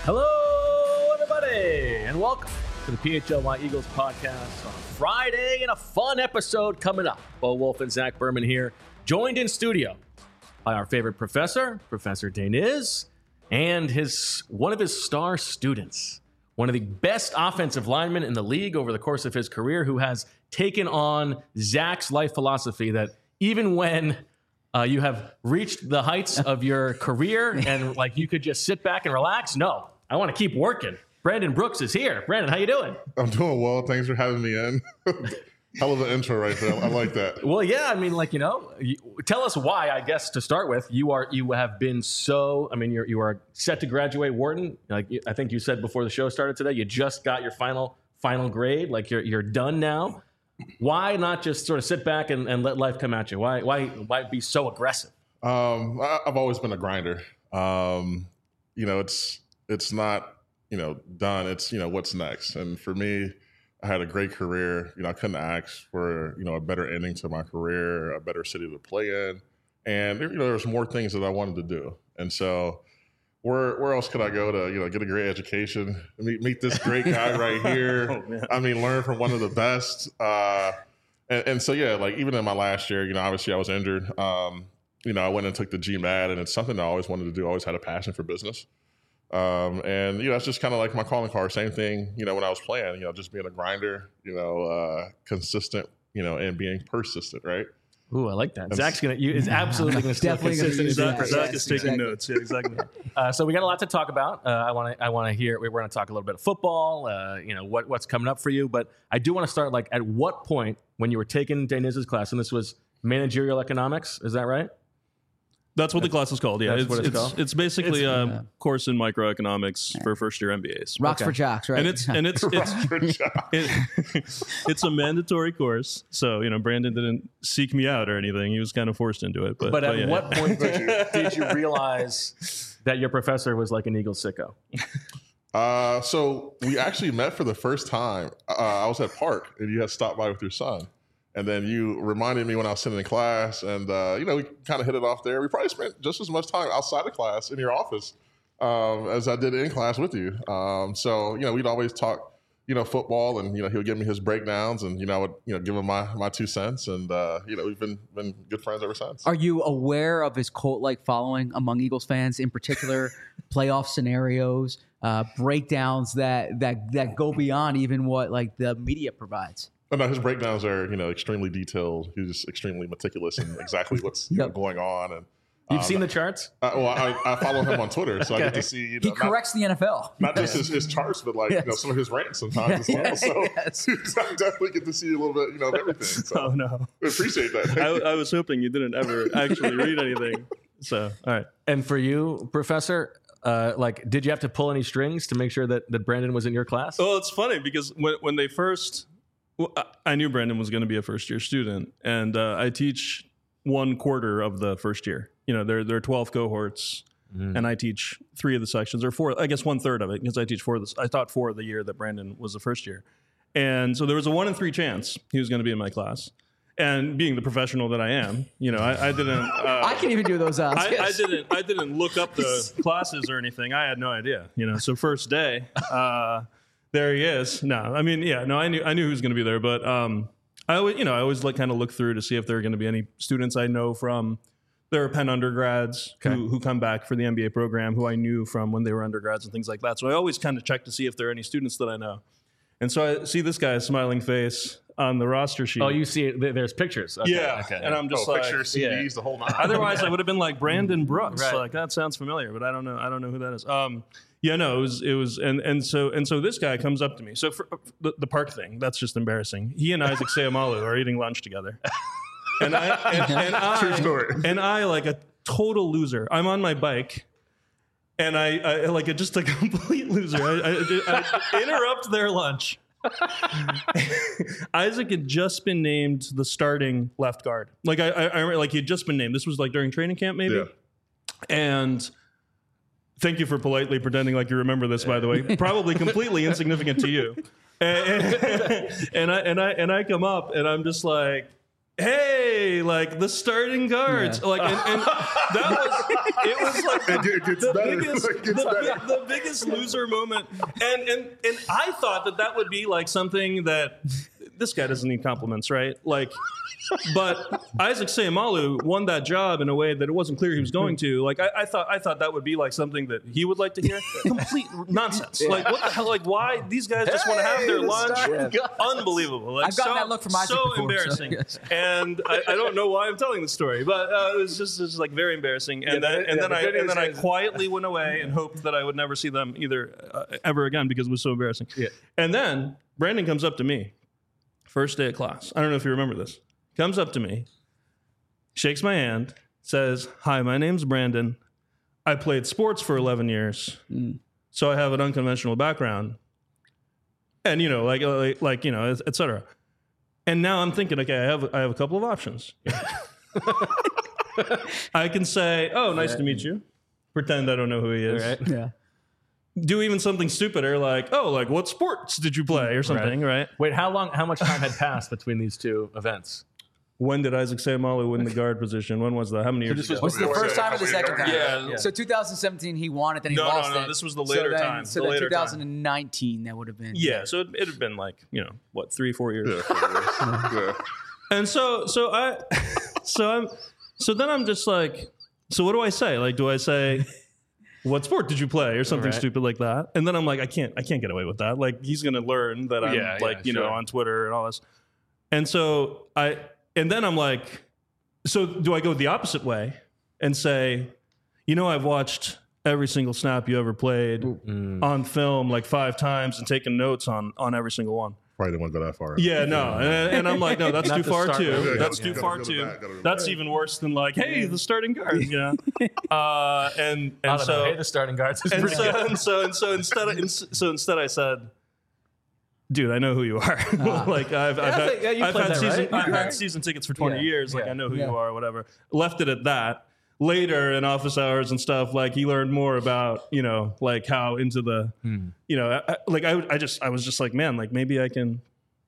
Hello, everybody, and welcome to the PHLY Eagles podcast on a Friday and a fun episode coming up. Bo Wolf and Zach Berman here, joined in studio by our favorite professor, Professor Daniz, and one of his star students, one of the best offensive linemen in the league over the course of his career, who has taken on Zach's life philosophy that even when you have reached the heights of your career and like you could just sit back and relax, no, I want to keep working. Brandon Brooks is here. Brandon, how you doing? I'm doing well. Thanks for having me in. Hell of an intro right there. I like that. Well, yeah, I mean, like, tell us why, I guess, to start with. You have been so, I mean, you are set to graduate Wharton. Like, I think you said before the show started today, you just got your final grade. Like, you're done now. Why not just sort of sit back and let life come at you? Why be so aggressive? I've always been a grinder. It's not, done. It's, what's next. And for me, I had a great career. I couldn't ask for, a better ending to my career, a better city to play in. And, there was more things that I wanted to do. And so where else could I go to, get a great education, meet this great guy right here. Learn from one of the best. And so, yeah, like even in my last year, obviously I was injured. I went and took the GMAT, and it's something I always wanted to do. I always had a passion for business. That's just kind of like my calling card. Same thing, when I was playing, just being a grinder, consistent, and being persistent, right? Ooh, I like that. Zach's is absolutely going to stay consistent. Zach is taking notes. Yeah, exactly. So we got a lot to talk about. I want to hear. We're going to talk a little bit of football. What's coming up for you. But I do want to start. Like, at what point when you were taking Daniz's class, and this was managerial economics, is that right? That's what the class is called. Yeah, it's basically a course in microeconomics for first year MBAs. Rocks for jocks, right? And it's a mandatory course. So Brandon didn't seek me out or anything. He was kind of forced into it. But at what point did you realize that your professor was like an Eagles sicko? So we actually met for the first time. I was at Park, and you had stopped by with your son. And then you reminded me when I was sitting in class, and, we kind of hit it off there. We probably spent just as much time outside of class in your office as I did in class with you. We'd always talk, football, and, he would give me his breakdowns, and, I would, give him my 2 cents. And, we've been good friends ever since. Are you aware of his cult-like following among Eagles fans, in particular, playoff scenarios, breakdowns that go beyond even what, like, the media provides? Oh, no, his breakdowns are, extremely detailed. He's extremely meticulous in exactly what's going on. And you've seen the charts? I follow him on Twitter, so I get to see. He corrects the NFL. Not just his charts, but some of his rants sometimes as well. So I definitely get to see a little bit, of everything. So oh no, I appreciate that. I was hoping you didn't ever actually read anything. So all right. And for you, Professor, did you have to pull any strings to make sure that Brandon was in your class? Well, it's funny because when they first. Well, I knew Brandon was going to be a first-year student, and I teach 1/4 of the first year. There are 12 cohorts, and I teach 3 of the sections, or 4. I guess 1/3 of it, because I teach 4 of this. I taught 4 of the year that Brandon was the first year, and so there was a 1 in 3 chance he was going to be in my class. And being the professional that I am, I didn't. I can even do those odds. I didn't look up the classes or anything. I had no idea. So first day. There he is. No, I knew he was going to be there, but I always kind of look through to see if there are going to be any students I know from. There are Penn undergrads who come back for the MBA program who I knew from when they were undergrads and things like that. So I always kind of check to see if there are any students that I know. And so I see this guy's smiling face on the roster sheet. Oh, you see it? There's pictures. Okay, yeah. Okay. And I'm just pictures, CDs, the whole nine. Otherwise, I would have been like Brandon Brooks. Right. Like that sounds familiar, but I don't know who that is. It was, and so this guy comes up to me. So for the Park thing, that's just embarrassing. He and Isaac Seumalo are eating lunch together, and True story. And I, like a total loser, I'm on my bike, and I like just a complete loser. I interrupt their lunch. Isaac had just been named the starting left guard. Like I remember, like he had just been named. This was like during training camp, maybe, yeah. And. Thank you for politely pretending like you remember this, by the way. Probably completely insignificant to you. And I come up and I'm just like, hey, like the starting guards, like, and that was like It gets better. the biggest loser moment. And I thought that would be like something that this guy doesn't need compliments, right? Like, but Isaac Seumalo won that job in a way that it wasn't clear he was going to. Like, I thought that would be like something that he would like to hear. Complete nonsense. Like, what the hell? Like, why these guys just want to have their lunch? Unbelievable. Like, I've gotten that look from Isaac so before, embarrassing. And I don't know why I'm telling the story, but it was just like very embarrassing. And then I quietly went away and hoped that I would never see them either ever again because it was so embarrassing. Yeah. And then Brandon comes up to me, first day of class. I don't know if you remember this. Comes up to me, shakes my hand, says, "Hi, my name's Brandon. I played sports for 11 years, so I have an unconventional background." And, like et cetera. And now I'm thinking, okay, I have a couple of options. I can say, "Oh, nice to meet you." Pretend I don't know who he is. Right. Yeah. Do even something stupider like, "Oh, like what sports did you play?" or something, right? Wait, how much time had passed between these two events? When did Isaac Seumalo win the guard position? When was that? How many years this ago? Was it the first time or the second time? Yeah. So 2017 he won it, then he lost it. No. This was the later time. So The then later time. 2019 that would have been. Yeah, so it had been like, 3-4 years. Yeah. And so then I'm just like, so what do I say? Like, do I say, "What sport did you play?" or something Right. stupid like that? And then I'm like, I can't get away with that. Like, he's gonna learn that I'm sure. on Twitter and all this. And then I'm like, so do I go the opposite way and say, I've watched every single snap you ever played on film like 5 times and taken notes on every single one. Probably didn't want to go that far. Yeah, no. And I'm like, no, that's Not too to far start too. with. Yeah, That's gotta too go far to too. that, gotta go That's back. even worse than like, hey, the starting guard, And I don't know. so Hey, the starting guards is and pretty good. so instead I said, "Dude, I know who you are. Like I've had season tickets for 20 Yeah, years. Like yeah, I know who you are, or whatever." Left it at that. Later in office hours and stuff, like he learned more about, like how into the, I was just like, man, like maybe I can,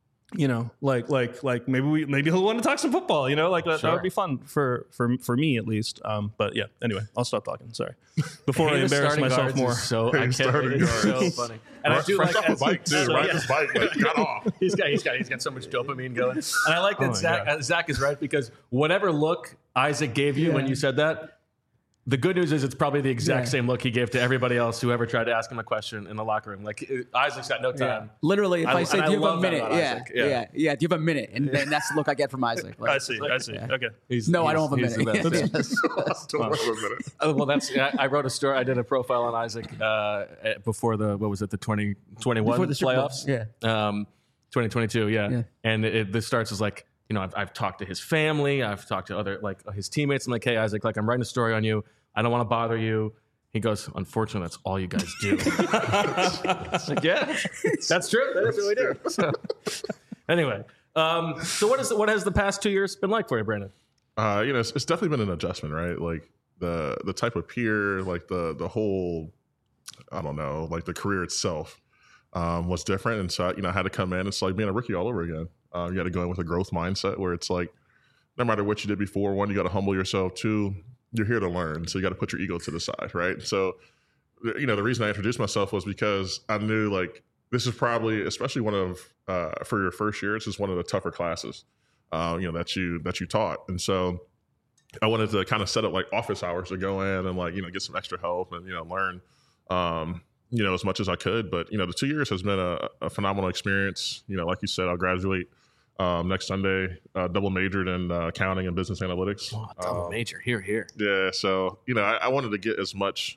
like maybe he'll want to talk some football, like that would be fun for me at least. But yeah, anyway, I'll stop talking. Sorry. Before I Hey, the embarrass starting myself guards more. is So I can't. starting It's so guards. funny. And I do Fresh like off the bike too. Ride his bike, like, got off. He's got so much dopamine going. And I like that my Zach is right because whatever look Isaac gave you when you said that, the good news is it's probably the exact same look he gave to everybody else who ever tried to ask him a question in the locker room. Like Isaac's got no time. Literally, if I say, and "Do you have a love that minute?" about Yeah, Isaac. yeah. Do you have a minute? And then that's the look I get from Isaac. Like, I see. Okay. no, I don't have a he's the minute. best, yeah. Don't wait a minute. Well, I wrote a story. I did a profile on Isaac before the 2021 Before the Super Bowl. playoffs. Yeah. 2022. Yeah. Yeah. And this starts as like, I've talked to his family. I've talked to other his teammates. I'm like, "Hey, Isaac, like I'm writing a story on you. I don't want to bother you." He goes, "Unfortunately, that's all you guys do." It's like, yeah, that's true. That is what we do. So, anyway, so what has the past 2 years been like for you, Brandon? It's definitely been an adjustment, right? Like the type of peer, like the whole, I don't know, like the career itself was different, and so I had to come in. It's like being a rookie all over again. You got to go in with a growth mindset where it's like, no matter what you did before, 1, you got to humble yourself. 2, you're here to learn, so you got to put your ego to the side, right? So, the reason I introduced myself was because I knew like this is probably, especially one of for your first year, it's just one of the tougher classes, that you taught, and so I wanted to kind of set up like office hours to go in and like get some extra help and learn, as much as I could. But the 2 years has been a phenomenal experience. Like you said, I'll graduate next Sunday, double majored in accounting and business analytics. Oh, double major. Here. Yeah, so I wanted to get as much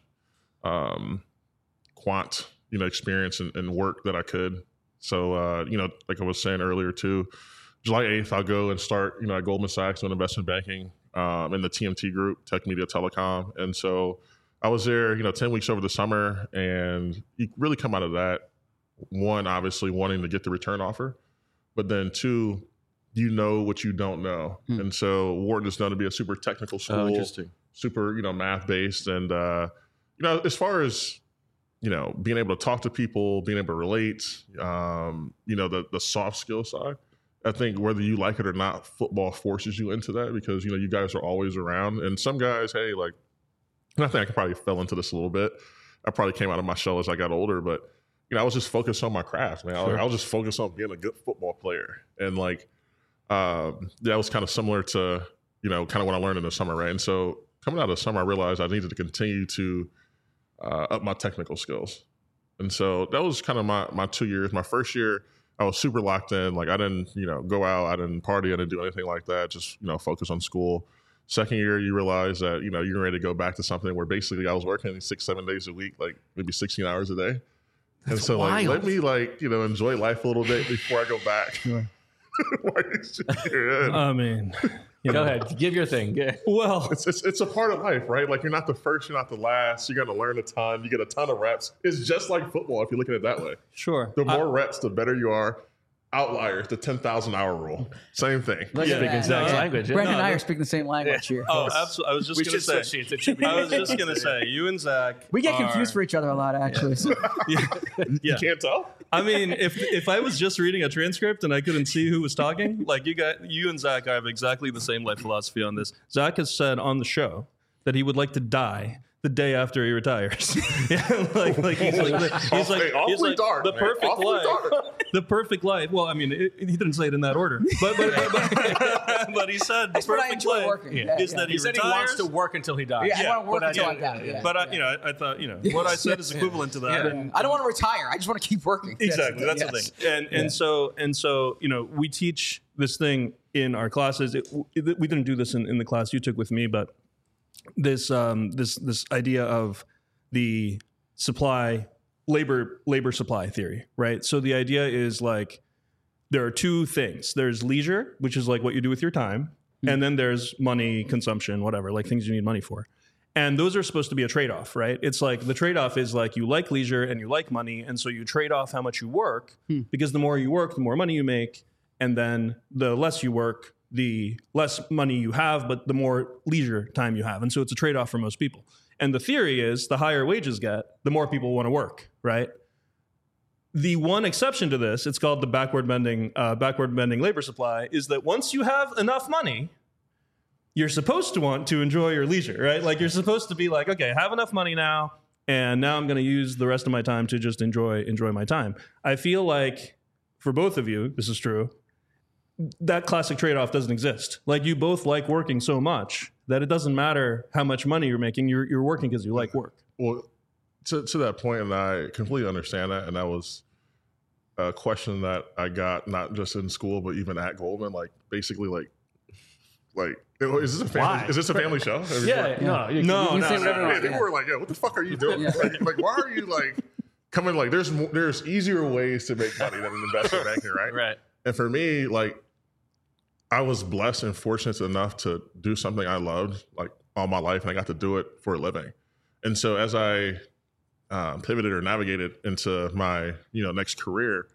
quant experience and work that I could. So like I was saying earlier too, July 8th I'll go and start at Goldman Sachs doing investment banking in the TMT group, Tech Media Telecom, and so I was there 10 weeks over the summer, and you really come out of that, 1, obviously wanting to get the return offer. But then 2, what you don't know. And so Wharton is known to be a super technical school, interesting. super, math based. And, as far as, being able to talk to people, being able to relate, the soft skill side I think whether you like it or not, football forces you into that because, you guys are always around. And some guys, hey, like, and I think I probably fell into this a little bit. I probably came out of my shell as I got older, but, I was just focused on my craft, man. Sure. I was just focused on being a good football player. And like, that was kind of similar to, kind of what I learned in the summer, right? And so coming out of the summer, I realized I needed to continue to up my technical skills. And so that was kind of my 2 years. My first year, I was super locked in. Like I didn't, go out, I didn't party, I didn't do anything like that. Just, focus on school. Second year, you realize that, you're ready to go back to something where basically I was working 6-7 days a week, like maybe 16 hours a day. And so like, let me enjoy life a little bit before I go back. Sure. I mean, Go ahead, give your thing. Yeah. Well, it's a part of life, right? Like you're not the first, you're not the last. You're going to learn a ton. You get a ton of reps. It's just like football if you look at it that way. sure. The more reps, the better you are. Outliers, the 10,000 hour rule. Same thing. Let's Yeah. speak exact Yeah. language. Yeah. Brendan and I no. are speaking the same language here. Oh, absolutely. I was just We going to should say. switch seats. It should be. I was just going to say, you and Zach. We get are- confused for each other a lot, actually. So. Yeah. You can't tell? I mean, if I was just reading a transcript and I couldn't see who was talking, like you and Zach have exactly the same life philosophy on this. Zach has said on the show that he would like to die the day after he retires. Yeah, he's like dark, the man. perfect Awfully life. dark. The perfect life. Well, I mean, he didn't say it in that order, but he said the That's what I perfect enjoy life working. is that He said he wants to work until he dies. Yeah, I want to work but until I yeah, die. Yeah. But I thought what I said is equivalent to that. Yeah. And, I don't want to retire. I just want to keep working. Exactly, that's the Yes. thing. And so we teach this thing in our classes. We didn't do this in the class you took with me, but this idea of the labor supply theory, right? So the idea is like there are two things. There's leisure, which is like what you do with your time, and then there's money, consumption, whatever, like things you need money for. And those are supposed to be a trade-off, right? It's like the trade-off is like you like leisure and you like money, and so you trade off how much you work because the more you work, the more money you make, and then the less you work, the less money you have, but the more leisure time you have. And so it's a trade-off for most people. And the theory is the higher wages get, the more people want to work, right? The one exception to this, it's called the backward bending labor supply, is that once you have enough money, you're supposed to want to enjoy your leisure, right? Like you're supposed to be like, okay, I have enough money now, and now I'm going to use the rest of my time to just enjoy my time. I feel like for both of you, this is true, that classic trade-off doesn't exist. Like you both like working so much that it doesn't matter how much money you're making. You're working because you like work. Well, to that point, and I completely understand that. And that was a question that I got not just in school, but even at Goldman. Like basically, like is this a family show? Yeah, no, you No, can say no, whatever. no. you Yeah, want. people were like, "Yo, what the fuck are you doing? Like, why are you like coming? Like, there's easier ways to make money than in investment banking, right? Right. And for me, like, I was blessed and fortunate enough to do something I loved, like, all my life, and I got to do it for a living. And so as I pivoted or navigated into my, next career,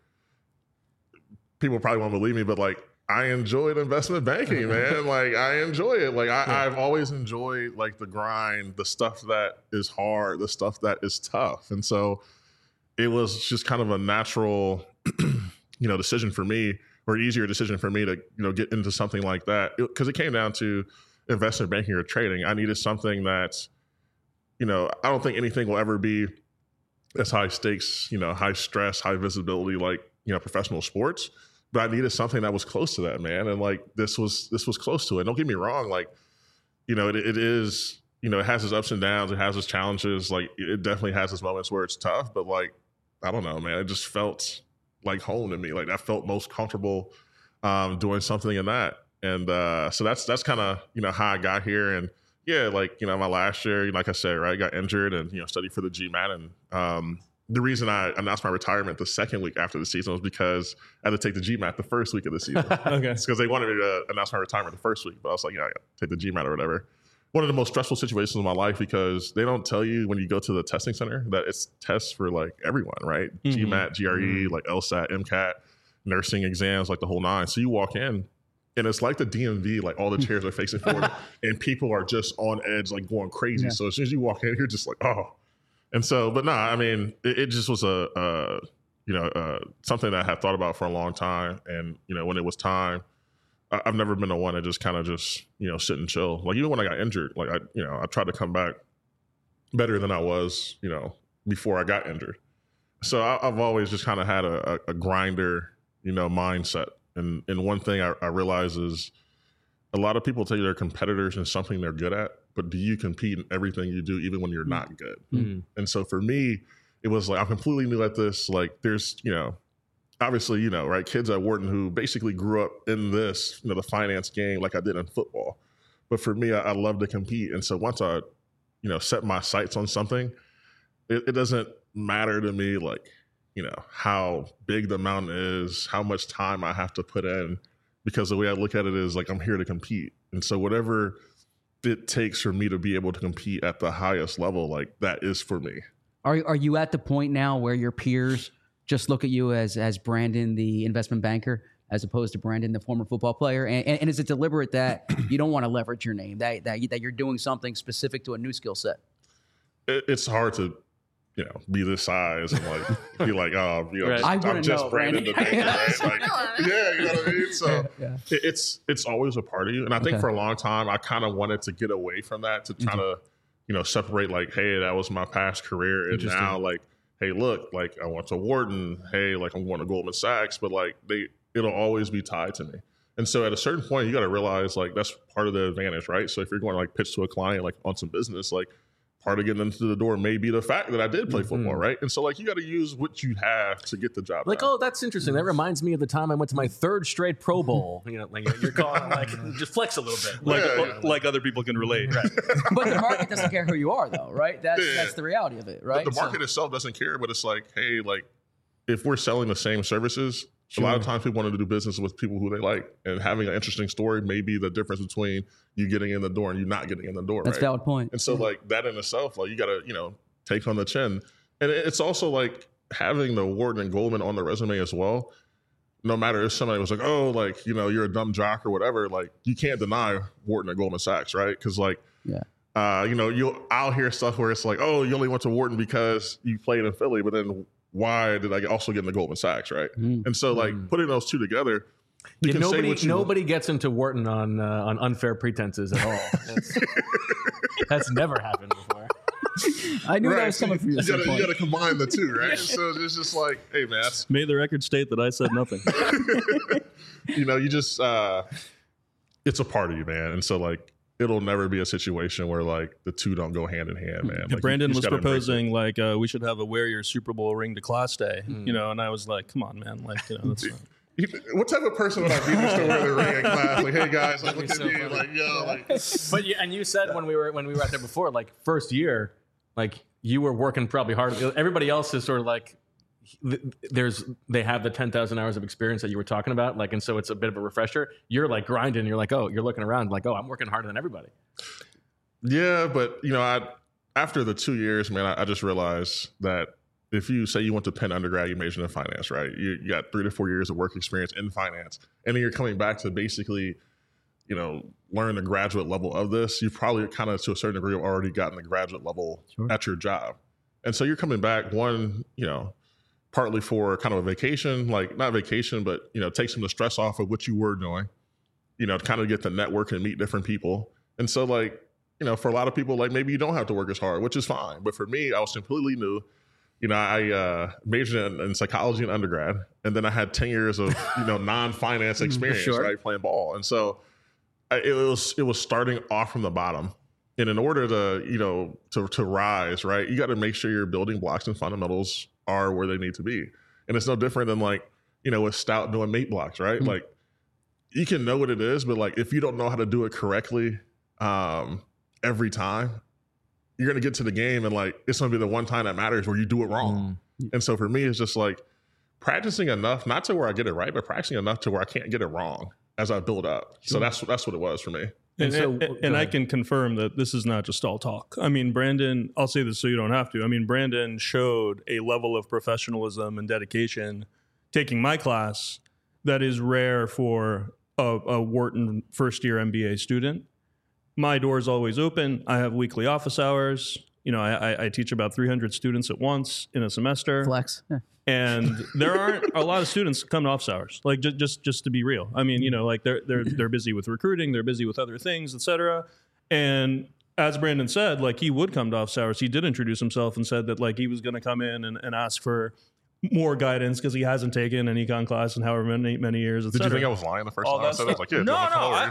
people probably won't believe me, but like, I enjoyed investment banking, man. Like, I enjoy it. Like, I've always enjoyed like the grind, the stuff that is hard, the stuff that is tough. And so it was just kind of a natural, decision for me, or easier decision for me to, get into something like that. Because it came down to investment banking or trading. I needed something that, I don't think anything will ever be as high stakes, high stress, high visibility, like, professional sports. But I needed something that was close to that, man. And like, this was close to it. Don't get me wrong. Like, it is, it has its ups and downs. It has its challenges. Like, it definitely has its moments where it's tough, but like, I don't know, man. It just felt like home to me. Like, I felt most comfortable doing something in that. And so that's kind of, how I got here. And yeah, like, my last year, like I said, right, I got injured and, studied for the GMAT. And the reason I announced my retirement the second week after the season was because I had to take the GMAT the first week of the season. Okay. It's because they wanted me to announce my retirement the first week. But I was like, I got to take the GMAT or whatever. One of the most stressful situations in my life, because they don't tell you when you go to the testing center that it's tests for like everyone, right? Mm-hmm. GMAT, GRE, like LSAT, MCAT, nursing exams, like the whole nine. So you walk in and it's like the DMV, like all the chairs are facing forward and people are just on edge, like going crazy. Yeah. So as soon as you walk in, you're just like, oh. And so, but no, I mean, it just was a something that I had thought about for a long time. And, when it was time, I've never been the one to just kind of sit and chill. Like even when I got injured, like I tried to come back better than I was, before I got injured. So I've always just kind of had a grinder, mindset. And one thing I realize is a lot of people tell you they're competitors in something they're good at, but do you compete in everything you do, even when you're not good? Mm-hmm. And so for me, it was like, I'm completely new at this. Like there's, obviously, right, kids at Wharton who basically grew up in this, the finance game like I did in football. But for me, I love to compete. And so once I, set my sights on something, it doesn't matter to me, like, how big the mountain is, how much time I have to put in, because the way I look at it is like, I'm here to compete. And so whatever it takes for me to be able to compete at the highest level, like that is for me. Are you at the point now where your peers just look at you as Brandon, the investment banker, as opposed to Brandon, the former football player? And is it deliberate that you don't want to leverage your name, that you're doing something specific to a new skill set? It's hard to, be this size and like be like, oh, right. I'm just know, Brandon the banker, right? Like, yeah, you know what I mean? So it's always a part of you. And I think for a long time, I kind of wanted to get away from that, to try to, separate like, hey, that was my past career. And now like, hey, look, like I went to Wharton. Hey, like I'm going to Goldman Sachs, but like it'll always be tied to me. And so at a certain point, you got to realize like that's part of the advantage, right? So if you're going to like pitch to a client like on some business, like part of getting into the door may be the fact that I did play football, right? And so like you got to use what you have to get the job like, done. Oh, that's interesting. That reminds me of the time I went to my third straight Pro Bowl. Like you're calling like just flex a little bit, like other people can relate. Right. But the market doesn't care who you are, though, right? That's the reality of it, right? But the market itself doesn't care, but it's like, hey, like if we're selling the same services, a lot of times people want to do business with people who they like, and having an interesting story may be the difference between you getting in the door and you not getting in the door. That's a valid point. And so like that in itself, like you got to, take on the chin. And it's also like having the Wharton and Goldman on the resume as well. No matter if somebody was like, oh, like, you're a dumb jock or whatever, like you can't deny Wharton and Goldman Sachs, right? Because like, I'll hear stuff where it's like, oh, you only went to Wharton because you played in Philly, but then why did I also get into Goldman Sachs, right? And so like putting those two together, nobody gets into Wharton on unfair pretenses at all. That's never happened before. I knew that was coming from you. You got to combine the two, right? So it's just like, hey, man. May the record state that I said nothing. You just, it's a part of you, man. And so like, it'll never be a situation where like the two don't go hand in hand, man. Like, Brandon was proposing like we should have a wear your Super Bowl ring to class day, and I was like, come on, man, like that's fine. What type of person would I be just to wear the ring in class? Like, hey guys, like look at me, like yo, like. But and you said when we were out there before, like first year, like you were working probably hard. Everybody else is sort of like. They have the 10,000 hours of experience that you were talking about, like, and so it's a bit of a refresher. You're like grinding. You're like, oh, you're looking around, like, oh, I'm working harder than everybody. Yeah, but after the 2 years, man, I just realized that if you say you went to Penn undergrad, you majored in finance, right? You got 3 to 4 years of work experience in finance, and then you're coming back to basically, learn the graduate level of this. You've probably kind of to a certain degree already gotten the graduate level at your job, and so you're coming back partly for kind of a vacation, like not vacation, but, take some of the stress off of what you were doing, to kind of get the network and meet different people. And so like, for a lot of people, like maybe you don't have to work as hard, which is fine. But for me, I was completely new. I majored in psychology in undergrad, and then I had 10 years of, non-finance experience, right? Playing ball. And so it was starting off from the bottom. And in order to, to rise, right, you got to make sure your building blocks and fundamentals are where they need to be. And it's no different than like, with Stout doing mate blocks, right? Like you can know what it is, but like if you don't know how to do it correctly every time, you're going to get to the game and like it's going to be the one time that matters where you do it wrong. And so for me, it's just like practicing enough, not to where I get it right, but practicing enough to where I can't get it wrong as I build up. So that's what it was for me. And I can confirm that this is not just all talk. I mean, Brandon, I'll say this so you don't have to. I mean, Brandon showed a level of professionalism and dedication taking my class that is rare for a Wharton first-year MBA student. My door is always open. I have weekly office hours. I teach about 300 students at once in a semester. Flex. Yeah. And there aren't a lot of students come to office hours. Like just to be real. I mean, like they're busy with recruiting, they're busy with other things, etc. And as Brandon said, like he would come to office hours. He did introduce himself and said that like he was going to come in and ask for more guidance because he hasn't taken an econ class in however many years. Did you think I was lying the first time I said it? I was like, yeah, no,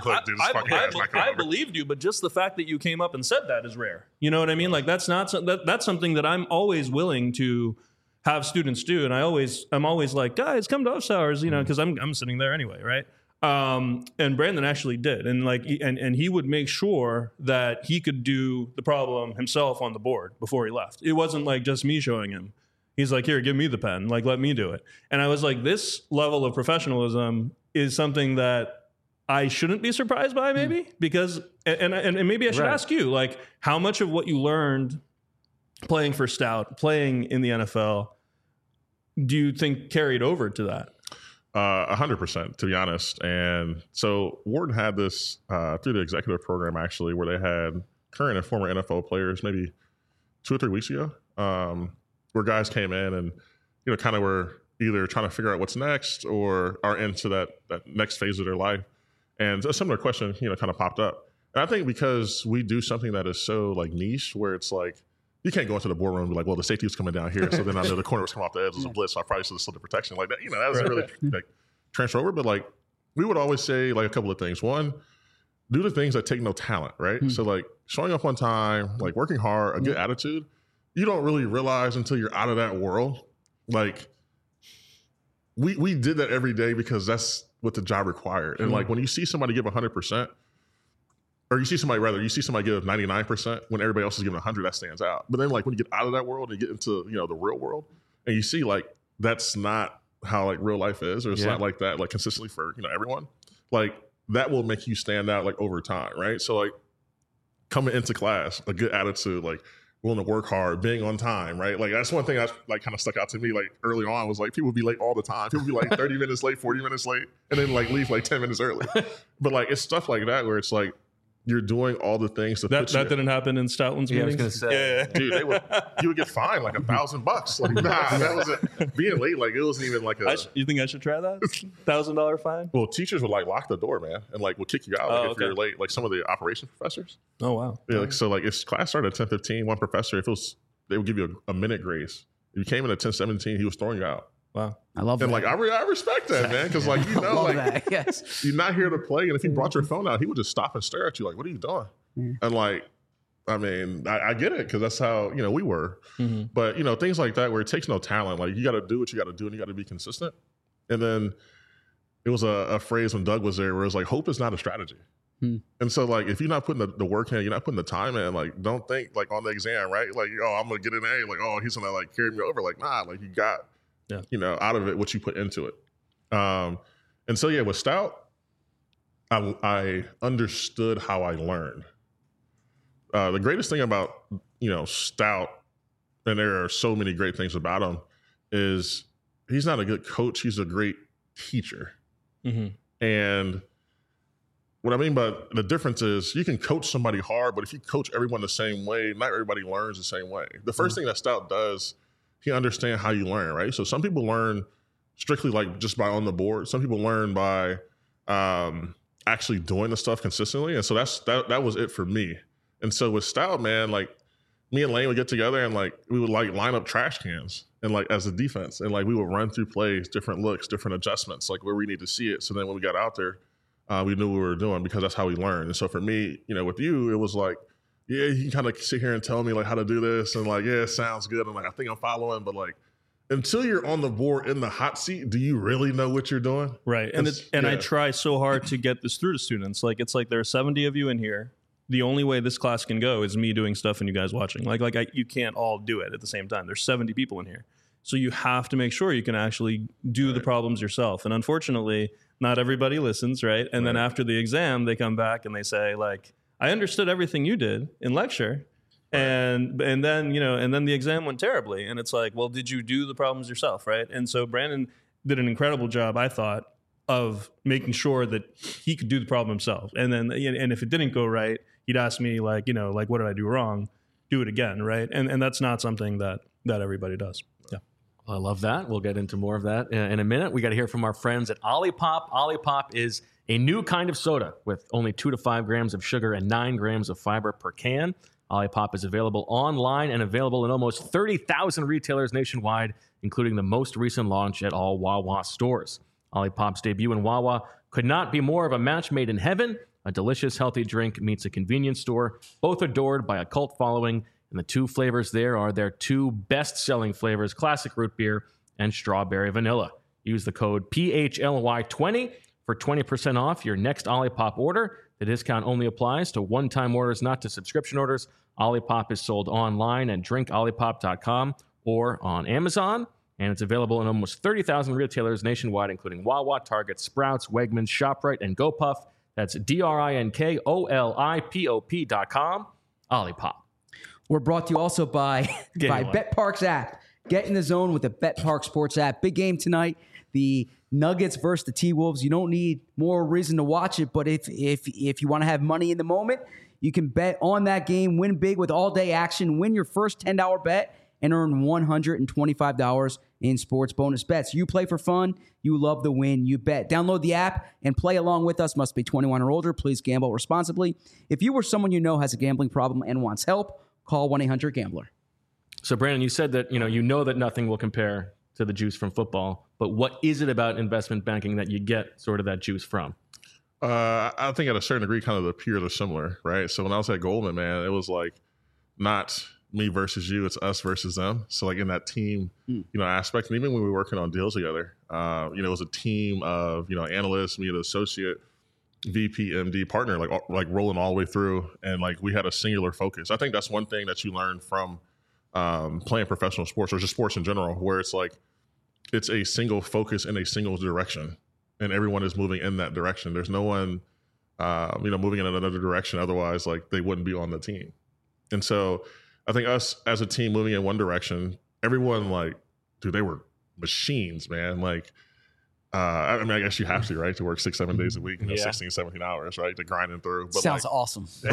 I believed you, but just the fact that you came up and said that is rare. You know what I mean? Like that's not that's something that I'm always willing to have students do, and I'm always like, guys, come to office hours, because I'm sitting there anyway, right? And Brandon actually did, and like, and he would make sure that he could do the problem himself on the board before he left. It wasn't like just me showing him. He's like, here, give me the pen, like let me do it. And I was like, this level of professionalism is something that I shouldn't be surprised by, maybe, because and maybe I should ask you, like, how much of what you learned playing for Stout, playing in the NFL, do you think carried over to that? 100%, to be honest. And so Wharton had this through the executive program, actually, where they had current and former NFL players maybe 2 or 3 weeks ago, where guys came in and, kind of were either trying to figure out what's next or are into that next phase of their life. And a similar question, kind of popped up. And I think because we do something that is so like niche, where it's like, you can't go into the boardroom and be like, well, the safety was coming down here, so then I know the corner was coming off the edge as a blitz, so I probably should have slid the protection like that. That doesn't really like transfer over. But like, we would always say like a couple of things. One, do the things that take no talent, right? So like showing up on time, like working hard, a good attitude. You don't really realize until you're out of that world. Like we did that every day because that's what the job required. And like when you see somebody give 100%, or you see somebody give 99% when everybody else is giving 100, that stands out. But then like when you get out of that world and you get into, the real world, and you see like that's not how like real life is, or it's not like that, like consistently for, everyone, like that will make you stand out like over time. Right. So like coming into class, a good attitude, like willing to work hard, being on time, right? Like that's one thing that like kind of stuck out to me like early on was like people would be late all the time. People would be like 30 minutes late, 40 minutes late, and then like leave like 10 minutes early. But like it's stuff like that where it's like you're doing all the things to that didn't happen in Stoutland's meetings. I was gonna say, dude, you would get fined like $1,000. Like, nah, that wasn't being late. Like, it wasn't even like a. You think I should try that? $1,000 fine? Well, teachers would like lock the door, man, and like would kick you out if you're late. Like some of the operations professors. Oh wow. Yeah, like so, like if class started at 10:15, one professor, they would give you a minute grace. If you came in at 10:17, he was throwing you out. Wow. I love that. And like I respect that, man, because like like that, yes. You're not here to play, and if you brought your phone out, he would just stop and stare at you like, "What are you doing?" And like, I mean, I get it because that's how we were. But things like that where it takes no talent. Like you got to do what you got to do, and you got to be consistent. And then it was a phrase when Doug was there where it was like, "Hope is not a strategy." And so like if you're not putting the work in, you're not putting the time in, like don't think like on the exam, right? Like, oh, I'm gonna get an A, like, oh, he's gonna like carry me over. Like, nah, like you got out of it what you put into it. And so yeah, with Stout, I understood how I learned. The greatest thing about Stout, and there are so many great things about him, is he's not a good coach, he's a great teacher. And what I mean by the difference is you can coach somebody hard, but if you coach everyone the same way, not everybody learns the same way. The first thing that Stout does, he understands how you learn, right? So some people learn strictly like just by on the board. Some people learn by actually doing the stuff consistently. And so that was it for me. And so with Stout, man, like me and Lane would get together and like we would like line up trash cans and like as a defense, and like we would run through plays, different looks, different adjustments, like where we need to see it. So then when we got out there, we knew what we were doing because that's how we learned. And so for me, with you, it was like, yeah, you can kind of sit here and tell me like how to do this, and like, yeah, it sounds good, and like I think I'm following, but like until you're on the board in the hot seat, do you really know what you're doing? Right. And I try so hard to get this through to students. Like it's like there are 70 of you in here. The only way this class can go is me doing stuff and you guys watching. You can't all do it at the same time. There's 70 people in here. So you have to make sure you can actually do the problems yourself. And unfortunately, not everybody listens, right? And then after the exam, they come back and they say like, I understood everything you did in lecture. And then, and then the exam went terribly. And it's like, well, did you do the problems yourself, right? And so Brandon did an incredible job, I thought, of making sure that he could do the problem himself. And then, and if it didn't go right, he'd ask me like, what did I do wrong? do it again, right? And that's not something that everybody does. Yeah. I love that. We'll get into more of that in a minute. We got to hear from our friends at Olipop. Olipop is a new kind of soda with only 2 to 5 grams of sugar and 9 grams of fiber per can. Olipop is available online and available in almost 30,000 retailers nationwide, including the most recent launch at all Wawa stores. Olipop's debut in Wawa could not be more of a match made in heaven. A delicious, healthy drink meets a convenience store, both adored by a cult following. And the 2 flavors there are their 2 best-selling flavors, classic root beer and strawberry vanilla. Use the code PHLY20 for 20% off your next Olipop order. The discount only applies to one-time orders, not to subscription orders. Olipop is sold online at drinkolipop.com or on Amazon, and it's available in almost 30,000 retailers nationwide, including Wawa, Target, Sprouts, Wegmans, ShopRite, and GoPuff. That's DRINKOLIPOP.com. Olipop. We're brought to you also by BetParks app. Get in the zone with the BetParks Sports app. Big game tonight. The Nuggets versus the T-Wolves. You don't need more reason to watch it, but if you want to have money in the moment, you can bet on that game, win big with all-day action, win your first $10 bet, and earn $125 in sports bonus bets. You play for fun. You love the win. You bet. Download the app and play along with us. Must be 21 or older. Please gamble responsibly. If you or someone you know has a gambling problem and wants help, call 1-800-GAMBLER. So, Brandon, you said that you know that nothing will compare to the juice from football, but what is it about investment banking that you get sort of that juice from? I think at a certain degree, kind of the peers are similar, right? So when I was at Goldman, man, it was like not me versus you, it's us versus them. So like in that team, aspect, and even when we were working on deals together, it was a team of, analysts, me, an associate, VP, MD, partner, like rolling all the way through. And like we had a singular focus. I think that's one thing that you learn from playing professional sports or just sports in general, where it's like, it's a single focus in a single direction and everyone is moving in that direction. There's no one, moving in another direction. Otherwise, like they wouldn't be on the team. And so I think us as a team moving in one direction, everyone they were machines, man. Like, I guess you have to, right? To work 6-7 days a week, 16, 17 hours, right? To grind them through. But sounds awesome. But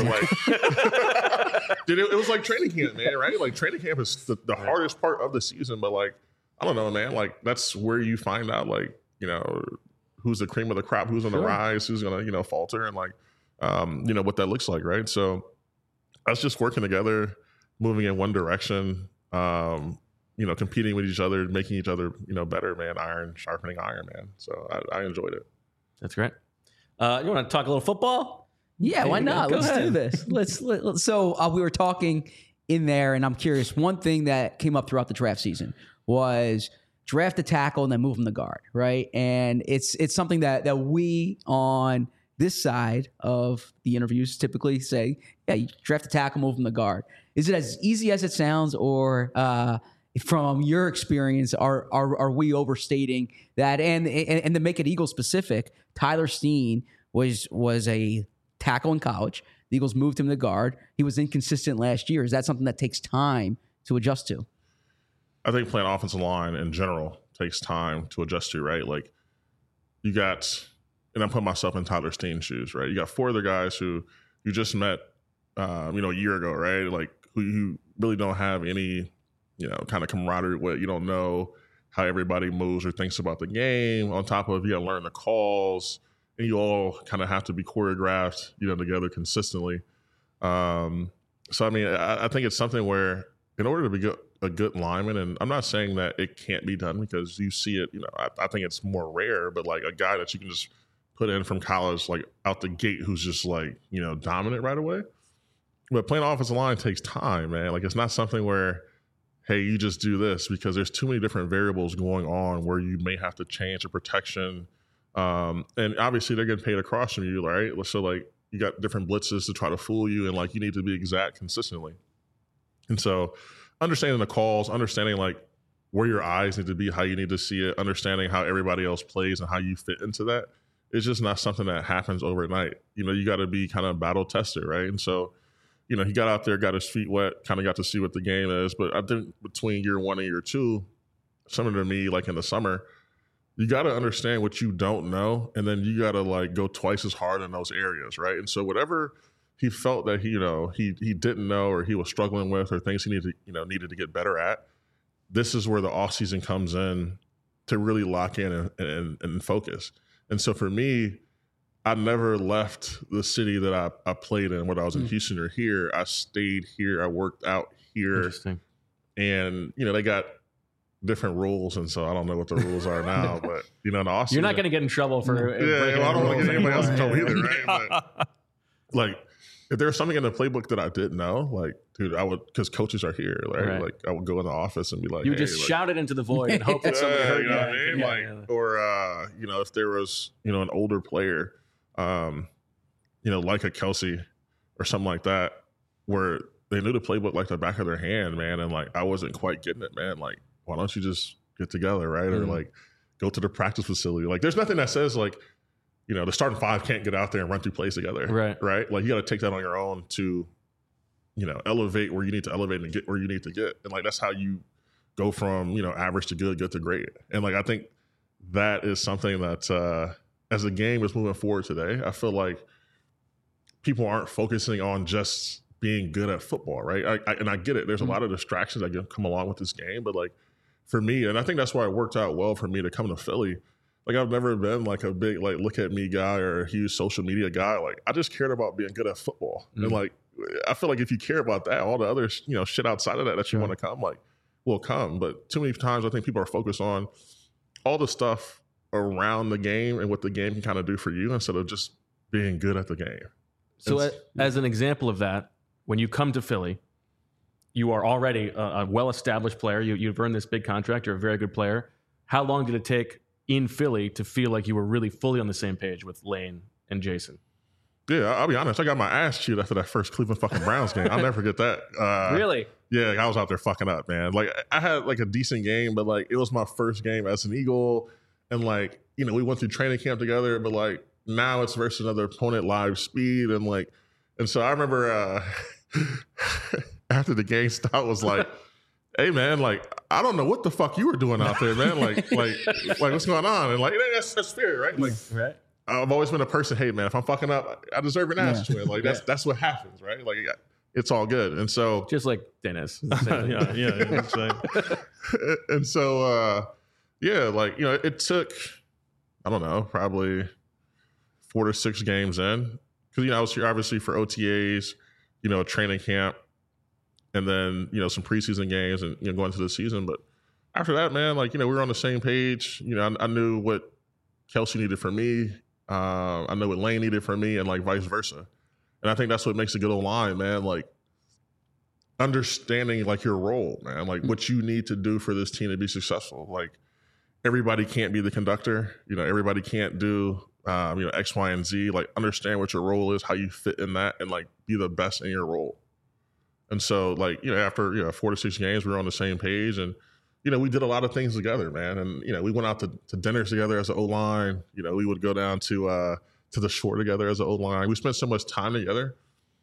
dude, it was like training camp, man, right? Like training camp is the hardest part of the season, but like, I don't know, man. Like that's where you find out, who's the cream of the crop, who's on the rise, who's gonna, falter, and what that looks like, right? So us just working together, moving in one direction, competing with each other, making each other, better, man. Iron sharpening iron, man. So I enjoyed it. That's great. You want to talk a little football? Yeah, why not? Let's do this. Let's. So we were talking in there, and I'm curious. One thing that came up throughout the draft season was draft a tackle and then move him to guard, right? And it's something that we on this side of the interviews typically say, yeah, you draft a tackle, move him to guard. Is it as easy as it sounds, or from your experience, are we overstating that? And to make it Eagles specific, Tyler Steen was a tackle in college. The Eagles moved him to guard. He was inconsistent last year. Is that something that takes time to adjust to? I think playing offensive line in general takes time to adjust to, right? Like you got, and I'm putting myself in Tyler Steen's shoes, right? You got 4 other guys who you just met, a year ago, right? Like who you really don't have any, kind of camaraderie with. You don't know how everybody moves or thinks about the game. On top of, you got to learn the calls, and you all kind of have to be choreographed, together consistently. So, I mean, I think it's something where in order to be a good lineman, and I'm not saying that it can't be done because you see it, I think it's more rare, but like a guy that you can just put in from college, like out the gate, who's just like, dominant right away. But playing offensive line takes time, man. Like it's not something where, hey, you just do this, because there's too many different variables going on where you may have to change the protection. And obviously they're getting paid across from you, right? So like you got different blitzes to try to fool you, and like you need to be exact consistently. And so understanding the calls, understanding like where your eyes need to be, how you need to see it, understanding how everybody else plays and how you fit into that, it's just not something that happens overnight. You got to be kind of battle tested, right? And so, he got out there, got his feet wet, kind of got to see what the game is. But I think between year 1 and year 2, similar to me, like in the summer, you got to understand what you don't know, and then you got to like go twice as hard in those areas, right? And so whatever he felt that he didn't know, or he was struggling with, or things he needed to get better at, this is where the offseason comes in to really lock in and focus. And so for me, I never left the city that I played in, whether I was in Houston or here. I stayed here. I worked out here. Interesting. And, they got different rules. And so I don't know what the rules are now, but, in the off You're not going to get in trouble for I don't want to get anybody else in trouble either, right? But, like, if there was something in the playbook that I didn't know, like, dude, I would, because coaches are here, right? Like, I would go in the office and be like, you would just shout it into the void and hope that somebody heard you. Know what I mean? Or, if there was, an older player, like a Kelsey or something like that, where they knew the playbook like the back of their hand, man, and like I wasn't quite getting it, man. Like, why don't you just get together, right? Or like go to the practice facility. Like, there's nothing that says like, the starting five can't get out there and run through plays together. Right. Like, you got to take that on your own to, elevate where you need to elevate and get where you need to get. And like, that's how you go from, average to good to great. And like, I think that is something that, as the game is moving forward today, I feel like people aren't focusing on just being good at football. Right. And I get it. There's a lot of distractions that come along with this game, but like for me, and I think that's why it worked out well for me to come to Philly. Like, I've never been like a big, like, look at me guy or a huge social media guy. Like, I just cared about being good at football. And like, I feel like if you care about that, all the other, shit outside of that you want to come, like, will come. But too many times I think people are focused on all the stuff around the game and what the game can kind of do for you instead of just being good at the game. So as an example of that, when you come to Philly, you are already a well-established player. You've earned this big contract. You're a very good player. How long did it take in Philly to feel like you were really fully on the same page with Lane and Jason? Yeah, I'll be honest. I got my ass chewed after that first Cleveland fucking Browns game. I'll never forget that. Really? Yeah, I was out there fucking up, man. Like, I had like a decent game, but like it was my first game as an Eagle. And like, we went through training camp together, but like now it's versus another opponent, live speed. And so I remember after the game stopped, was like, hey man, like, I don't know what the fuck you were doing out there, man. Like what's going on? And like, that's fair, right? Like, right. I've always been a person, hey man, if I'm fucking up, I deserve an ass twin. Like, that's what happens, right? Like, it's all good. And so, just like Dennis. yeah. And so, like, it took, I don't know, probably 4 to 6 games in, because I was here obviously for OTAs, training camp, and then, some preseason games and, going into the season. But after that, man, like, we were on the same page. I knew what Kelsey needed from me. I know what Lane needed from me, and like vice versa. And I think that's what makes a good O-line, man. Like, understanding like your role, man, like what you need to do for this team to be successful. Like, everybody can't be the conductor. Everybody can't do, X, Y, and Z. Like, understand what your role is, how you fit in that, and like be the best in your role. And so, like, after 4 to 6 games, we were on the same page, and we did a lot of things together, man. And we went out to dinners together as an O-line. We would go down to the shore together as an O-line. We spent so much time together.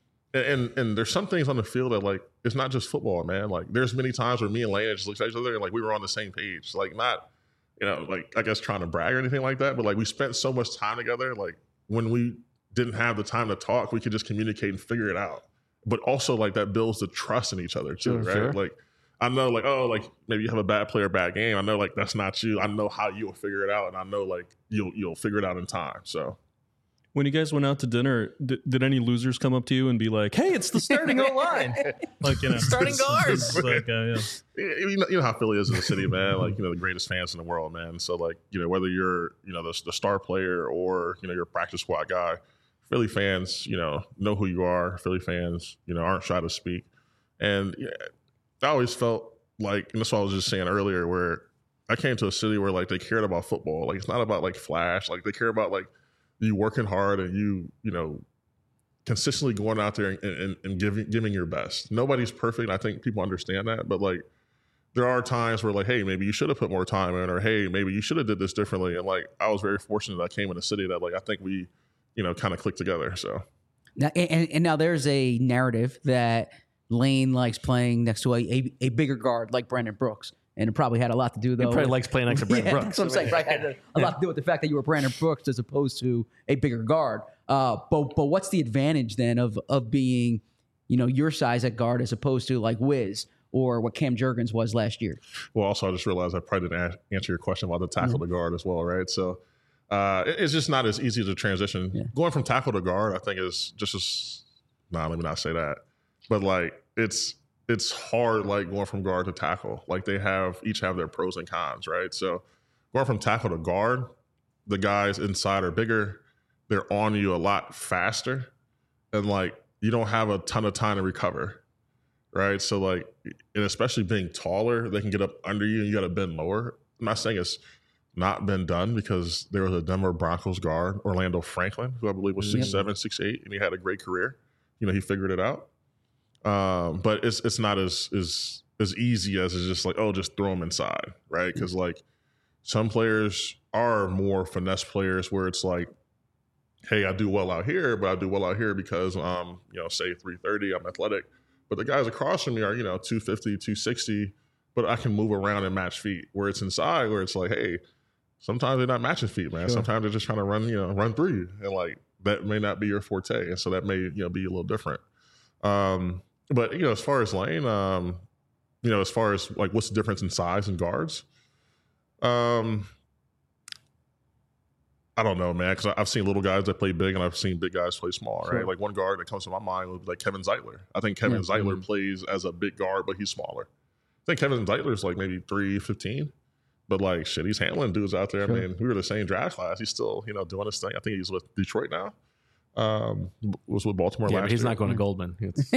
And there's some things on the field that, like, it's not just football, man. Like, there's many times where me and Lane just looked at each other and like we were on the same page. Like, not, like, I guess trying to brag or anything like that, but like we spent so much time together. Like, when we didn't have the time to talk, we could just communicate and figure it out. But also, like, that builds the trust in each other too, right? Sure. Like, I know, like, oh, like, maybe you have a bad player, bad game. I know, like, that's not you. I know how you'll figure it out, and I know, like, you'll figure it out in time. So, when you guys went out to dinner, did any losers come up to you and be like, "Hey, it's the starting O-line," like, starting guards? Like, you know how Philly is in the city, man. Like, the greatest fans in the world, man. So, like, whether you're the star player or you're a practice squad guy, Philly fans, know who you are. Philly fans, aren't shy to speak. And I always felt like, and that's what I was just saying earlier, where I came to a city where, like, they cared about football. Like, it's not about, like, flash. Like, they care about, like, you working hard and you consistently going out there and giving your best. Nobody's perfect. I think people understand that. But, like, there are times where, like, hey, maybe you should have put more time in, or hey, maybe you should have did this differently. And, like, I was very fortunate that I came in a city that, like, I think we, kind of clicked together. So now, and now there's a narrative that Lane likes playing next to a bigger guard like Brandon Brooks. And it probably had a lot to do, though. He probably likes playing next to Brandon Brooks. That's what I'm saying. Right? Had a lot to do with the fact that you were Brandon Brooks as opposed to a bigger guard. But what's the advantage then of being, your size at guard as opposed to like Wiz or what Cam Jurgens was last year? Well, also, I just realized I probably didn't answer your question about the tackle to guard as well, right? So it's just not as easy to transition. Yeah. Going from tackle to guard, I think is just as, let me not say that. But like, it's hard, like going from guard to tackle. Like they each have their pros and cons, right? So going from tackle to guard, the guys inside are bigger. They're on you a lot faster. And like, you don't have a ton of time to recover, right? So like, and especially being taller, they can get up under you and you got to bend lower. I'm not saying it's not been done because there was a Denver Broncos guard, Orlando Franklin, who I believe was 6'7", 6'8", and he had a great career. He figured it out. But it's not as easy as it's just like, just throw them inside, right? Because like some players are more finesse players where it's like, hey, I do well out here, but I do well out here because I'm, say 330, I'm athletic. But the guys across from me are, 250, 260, but I can move around and match feet. Where it's inside, where it's like, hey, sometimes they're not matching feet, man. Sure. Sometimes they're just trying to run through you. And like, that may not be your forte. And so that may, be a little different. But, as far as Lane, as far as like what's the difference in size and guards, I don't know, man, because I've seen little guys that play big and I've seen big guys play small, right? Sure. Like one guard that comes to my mind would be like Kevin Zeitler. I think Kevin Zeitler plays as a big guard, but he's smaller. I think Kevin Zeitler's like maybe 315, but like shit, he's handling dudes out there. Sure. I mean, we were the same draft class. He's still, doing his thing. I think he's with Detroit now. Was with Baltimore last year. He's not going to Goldman.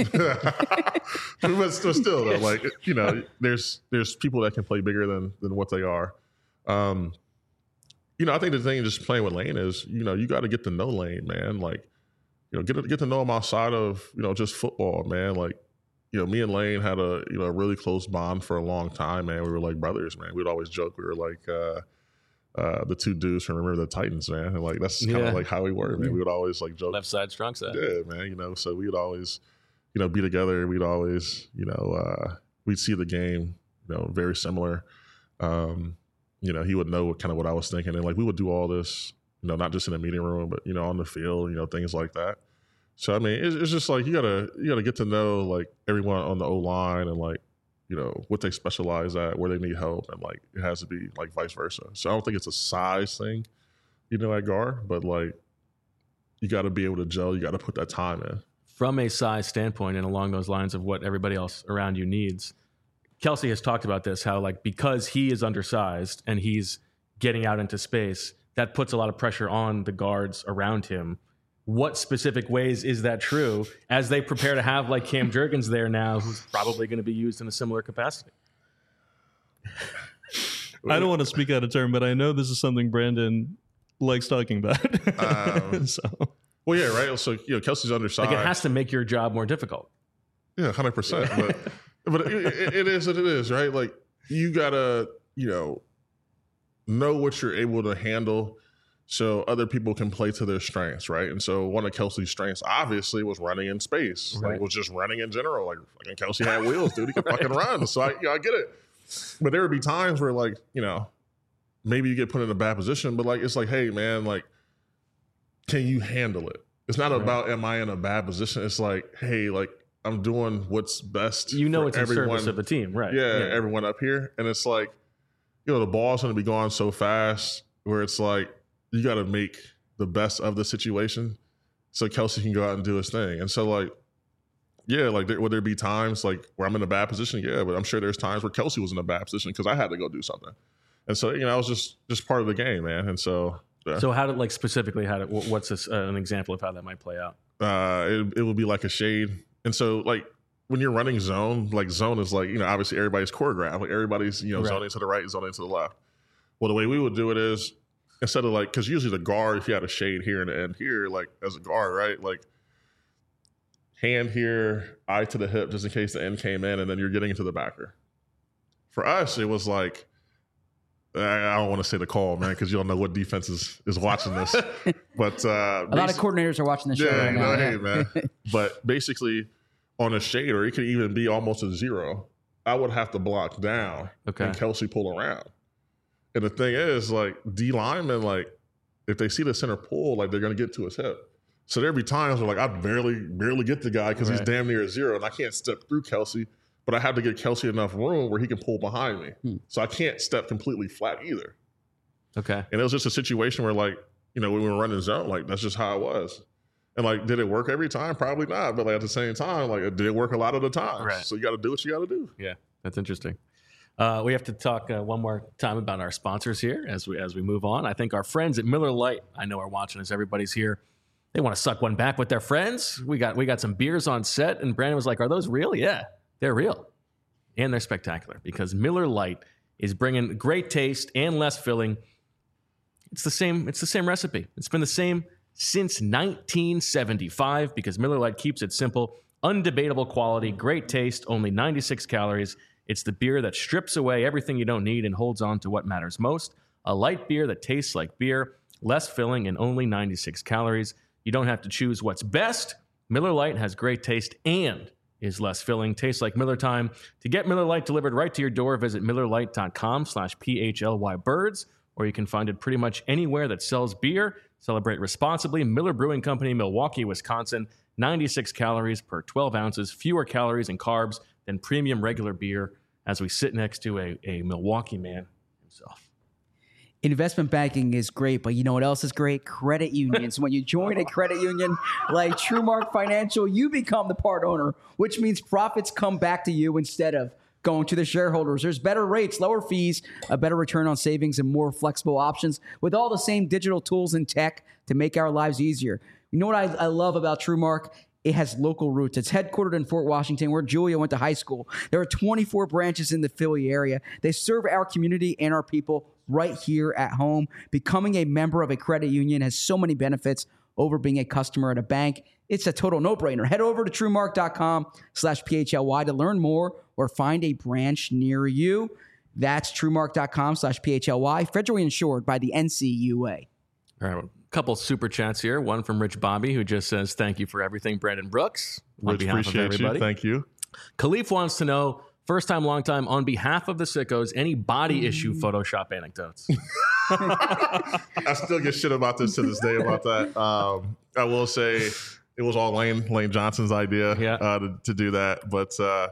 But still, though, like, there's people that can play bigger than what they are. I think the thing just playing with Lane is, you got to get to know Lane, man. Like, get to know him outside of, just football, man. Like, me and Lane had a really close bond for a long time, man. We were like brothers, man. We'd always joke. We were like the two dudes from Remember the Titans, man. And like, that's kind of like how we were, man. We would always like joke. Left side, strong side. Yeah, man. So we'd always, be together. We'd always, we'd see the game, very similar. He would know kind of what I was thinking. And like, we would do all this, not just in the meeting room, but, on the field, things like that. So, I mean, it's just like, you gotta get to know like everyone on the O-line and like, what they specialize at, where they need help. And like, it has to be like vice versa. So I don't think it's a size thing, at guard, but like, you got to be able to gel. You got to put that time in. From a size standpoint and along those lines of what everybody else around you needs, Kelce has talked about this, how like because he is undersized and he's getting out into space, that puts a lot of pressure on the guards around him. What specific ways is that true as they prepare to have like Cam Jurgens there now, who's probably going to be used in a similar capacity? I don't want to speak out of turn, but I know this is something Brandon likes talking about. Well, yeah, right. So, Kelce's undersized. Like it has to make your job more difficult. Yeah, 100%. But it is what it is, right? Like you gotta, know what you're able to handle so other people can play to their strengths, right? And so one of Kelce's strengths obviously was running in space. Right. Like was just running in general. Like fucking Kelce had wheels, dude. He could fucking run. So I get it. But there would be times where like, maybe you get put in a bad position, but like it's like, hey man, like, can you handle it? It's not about am I in a bad position? It's like, hey, like I'm doing what's best. It's in service of the team, right? Yeah, everyone up here. And it's like, the ball's going to be going so fast where it's like, you got to make the best of the situation so Kelce can go out and do his thing. And so like, yeah, like would there be times like where I'm in a bad position? Yeah, but I'm sure there's times where Kelce was in a bad position because I had to go do something. And so, that was just part of the game, man. And so. Yeah. So how did like specifically what's an example of how that might play out? It would be like a shade. And so like when you're running zone, like zone is like, obviously everybody's choreographed. Like everybody's, zoning to the right, zoning to the left. Well, the way we would do it is instead of like, because usually the guard, if you had a shade here and the end here, like as a guard, right? Like hand here, eye to the hip, just in case the end came in, and then you're getting into the backer. For us, it was like, I don't want to say the call, man, because you don't know what defense is watching this. But a lot of coordinators are watching the show right now. Hey, man. But basically, on a shade, or it could even be almost a zero, I would have to block down and Kelce pull around. And the thing is, like, D linemen, like, if they see the center pull, like, they're going to get to his hip. So there'd be times where like I'd barely get the guy because he's Right. damn near a zero, and I can't step through Kelsey, but I have to give Kelsey enough room where he can pull behind me. So I can't step completely flat either. Okay. And it was just a situation where like, you know, when we were running zone, like that's just how it was. And like, did it work every time? Probably not. But like at the same time, like did it work a lot of the time? Right. So you got to do what you got to do. Yeah, that's interesting. We have to talk one more time about our sponsors here as we move on. I think our friends at Miller Lite, I know, are watching us. Everybody's here. They want to suck one back with their friends. We got some beers on set, and Brandon was like, "Are those real?" Yeah, they're real, and they're spectacular because Miller Lite is bringing great taste and less filling. It's the same recipe. It's been the same since 1975 because Miller Lite keeps it simple, undebatable quality, great taste, only 96 calories. It's the beer that strips away everything you don't need and holds on to what matters most. A light beer that tastes like beer, less filling, and only 96 calories. You don't have to choose what's best. Miller Lite has great taste and is less filling. Tastes like Miller time. To get Miller Lite delivered right to your door, visit MillerLite.com/PHLYBirds, or you can find it pretty much anywhere that sells beer. Celebrate responsibly. Miller Brewing Company, Milwaukee, Wisconsin. 96 calories per 12 ounces, fewer calories and carbs than premium regular beer, as we sit next to a Milwaukee man himself. Investment banking is great, but you know what else is great? Credit unions. When you join a credit union like TrueMark Financial, you become the part owner, which means profits come back to you instead of going to the shareholders. There's better rates, lower fees, a better return on savings, and more flexible options with all the same digital tools and tech to make our lives easier. You know what I love about TrueMark? It has local roots. It's headquartered in Fort Washington, where Julia went to high school. There are 24 branches in the Philly area. They serve our community and our people right here at home. Becoming a member of a credit union has so many benefits over being a customer at a bank. It's a total no-brainer. Head over to TrueMark.com/PHLY to learn more or find a branch near you. That's TrueMark.com/PHLY. Federally insured by the NCUA. All right, a couple super chats here. One from Rich Bobby, who just says, "Thank you for everything, Brandon Brooks." On Rich, behalf of appreciate everybody. you. Thank you. Khalif wants to know, first time, long time, on behalf of the sickos, any body issue Photoshop anecdotes? I still get shit about this to this day about that. I will say it was all Lane Johnson's idea to do that. But so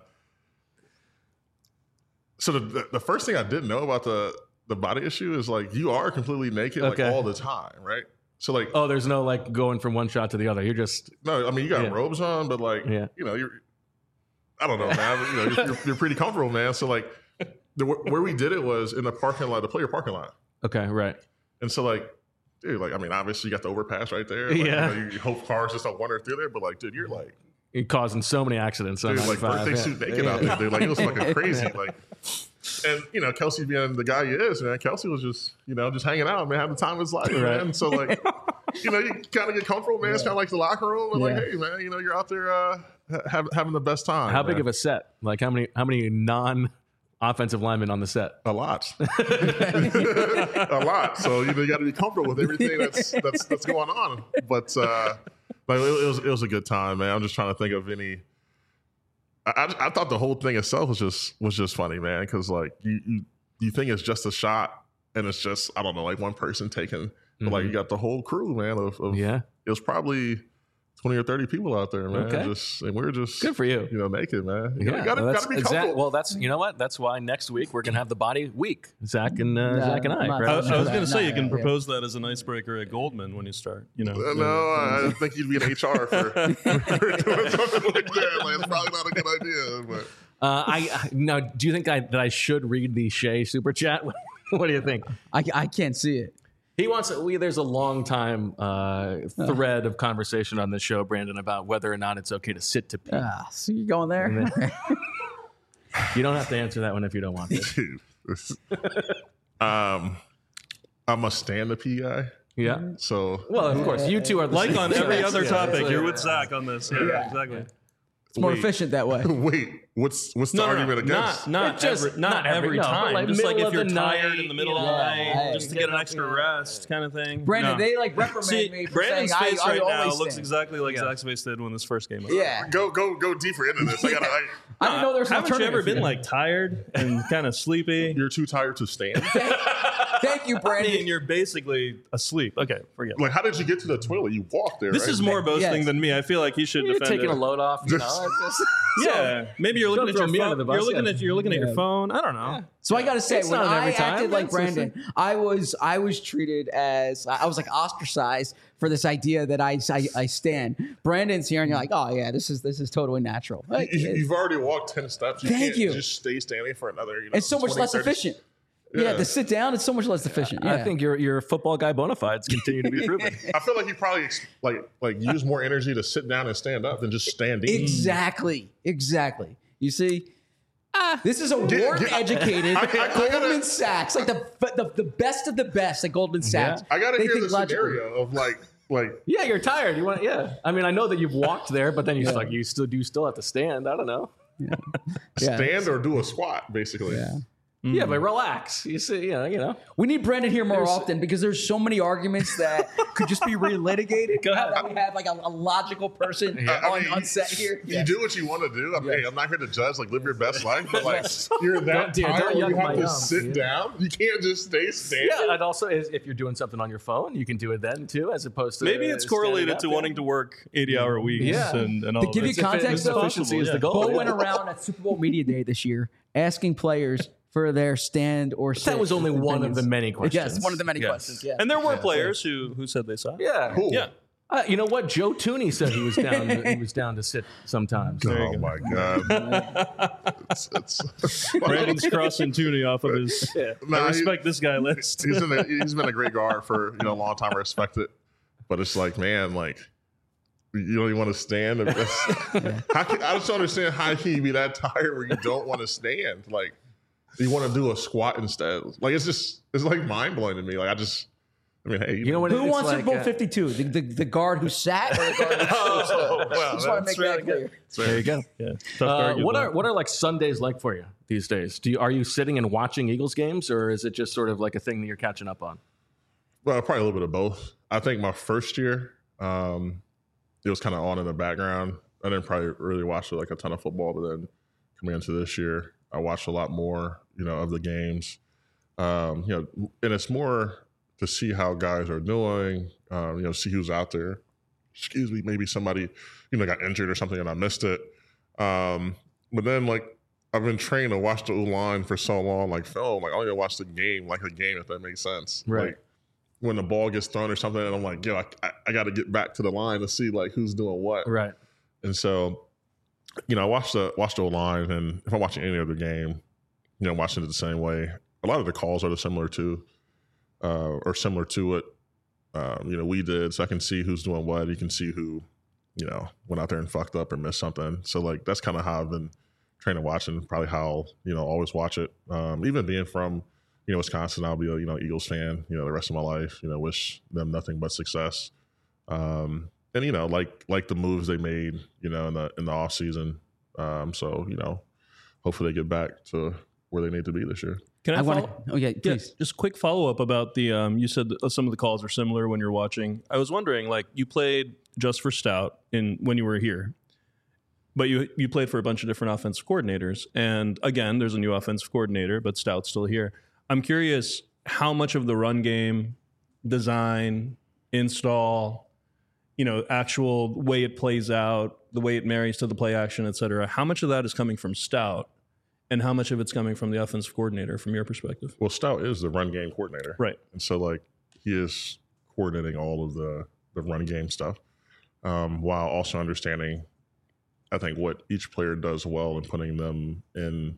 the first thing I didn't know about the body issue is like you are completely naked like all the time, right? So like, Oh, there's no like going from one shot to the other. You're just no, I mean you got robes on, but like you know I don't know, man. You know, you're pretty comfortable, man. So like where we did it was in the parking lot, the player parking lot. okay, right? And so like, dude, like I mean, obviously you got the overpass right there. Like, Yeah. you know, you hope cars just don't wander through there, but like, dude, you're like. You're causing so many accidents. On Dude, like 95. birthday suit naked out there, dude. Like it was fucking crazy. Like, and you know, Kelsey being the guy he is, man. Kelsey was just, you know, just hanging out, man, having the time of his life, man. So like, you know, you kind of get comfortable, man. It's kind of like the locker room, and like, hey, man, you know, you're out there having the best time. How big man. of a set? Like how many non-offensive linemen on the set? A lot, a lot. So you know, you got to be comfortable with everything that's going on. But like it was a good time, man. I'm just trying to think of any. I thought the whole thing itself was just funny, man, because like you think it's just a shot and it's just I don't know like one person taking, but like you got the whole crew, man. Of it was probably 20 or 30 people out there, man. Okay. And we're just Good for you. you know, naked, man. You Yeah, gotta be comfortable. well, that's you know what? That's why next week we're gonna have the body week. Zach and I. I'm not- Right? I was going to say you Yeah. can propose that as an icebreaker at Goldman when you start. You know, No, I think you'd be in HR for doing something like that. Like, it's probably not a good idea. But Now, do you think that I should read the Shea super chat? What do you think? I can't see it. He wants. There's a long time thread of conversation on this show, Brandon, about whether or not it's okay to sit to pee. So you're going there? You don't have to answer that one if you don't want to. dude, I'm a stand the P guy. Yeah. So Well, of course, you two are the like same. on every Yeah, other yeah, topic, yeah. you're with Zach on this. Yeah, exactly. It's more Wait. efficient that way. wait, what's the argument against? Not Just- not every- every no, but time. like Just like middle if of you're the tired night, in the middle you of the know, night, hey, just to get an extra rest, kind of thing. Brandon, No. they like reprimand See, me for Brandon's saying face I right now always looks stand. exactly like Zach's face did when this first came up. Yeah. Go deeper into this. I I didn't know there's an Haven't you ever alternative been here. like tired and kind of sleepy? You're too tired to stand. Thank you, I Brandon. mean, you're basically asleep. Okay, forget it. Like, how did you get to the toilet? You walked there. This right? is more boasting Yes. than me. I feel like he should You're defend taking it. a load off. You know, it's just, Yeah, maybe you're looking at throw your me under phone. the bus, You're looking at your phone. I don't know. So I got to say, It's when not I every time. acted like It's Brandon, I was treated as I was like ostracized for this idea that I stand. Brandon's here, and you're like, oh yeah, this is totally natural. Like, You've already walked 10 steps. You Thank can't you. just stay standing for another. it's so much 20, less 30 efficient. Yeah, to sit down, it's so much less efficient. Yeah. I think your football guy bona fides continue to be proven. I feel like you probably like use more energy to sit down and stand up than just standing. Exactly. You see, this is a educated I gotta- Goldman Sachs, like the best of the best at Goldman Sachs. I gotta They hear think the logically. scenario of like Yeah, you're tired. You want? Yeah. I mean, I know that you've walked there, but then you still have to stand. I don't know. Yeah. stand or do a squat, basically. Yeah. Yeah, but relax. You see, you know. We need Brandon here more often because there's so many arguments that could just be relitigated. Go ahead. That we have like a logical person on set here. You do what you want to do. Hey, I'm not here to judge. Like, live your best life, but like, you're that Don't tired where yuck you my have to yum, sit dude. down. You can't just stay standing. Yeah, and also if you're doing something on your phone, you can do it then too, as opposed to Maybe it's standing correlated up, to yeah. wanting to work 80-hour weeks Yeah. and all To of give that. you context, though, efficiency is the goal. Bo yeah. went around at Super Bowl Media Day this year asking players for their stand or sit. That was only one of the many questions. Yes, one of the many Yes. questions. Yeah. And there were players who said they saw it. Yeah. Cool. Yeah. You know what? Joe Tooney said he was down. He was down to sit sometimes. Oh my god. Brandon's crossing Tooney off of his Nah, I respect this guy list. he's been a great guard for a long time. I respect it, but it's like, man, like, you don't even want to stand. I just don't understand how can you be that tired where you don't want to stand. Like, you want to do a squat instead. Like, it's like mind blowing to me. Like, I mean, hey, You know what? Who it's wants like, Super Bowl 52? The guard who sat or the guard who stood? well, Just want to make that clear. There you go. Yeah. Tough to argue What with. are like Sundays like for you these days? Are you sitting and watching Eagles games, or is it just sort of like a thing that you're catching up on? Well, probably a little bit of both. I think my first year, it was kind of on in the background. I didn't probably really watch like a ton of football, but then coming into this year, I watched a lot more, of the games. And it's more to see how guys are doing, see who's out there. Excuse me, maybe somebody, got injured or something and I missed it. But then, like, I've been trained to watch the O-line for so long, like film. Like, I only watch the game, like a game, if that makes sense. Right. Like, when the ball gets thrown or something, and I'm like, I got to get back to the line to see like who's doing what. Right. And so, I watch the O-line, and if I'm watching any other game, watching it the same way. A lot of the calls are similar to what we did. So I can see who's doing what. You can see who, went out there and fucked up or missed something. So like that's kind of how I've been trained to watch, and probably how always watch it. Even being from Wisconsin, I'll be a Eagles fan the rest of my life. Wish them nothing but success. And like the moves they made in the off season. So hopefully they get back to where they need to be this year. Can I follow? Please. Just quick follow up about the. You said that some of the calls are similar when you're watching. I was wondering, like, you played just for Stout when you were here, but you played for a bunch of different offensive coordinators. And again, there's a new offensive coordinator, but Stout's still here. I'm curious how much of the run game, design, install, actual way it plays out, the way it marries to the play action, et cetera. How much of that is coming from Stout? And how much of it's coming from the offensive coordinator from your perspective? Well, Stout is the run game coordinator. Right. And so, like, he is coordinating all of the run game stuff while also understanding, I think, what each player does well and putting them in,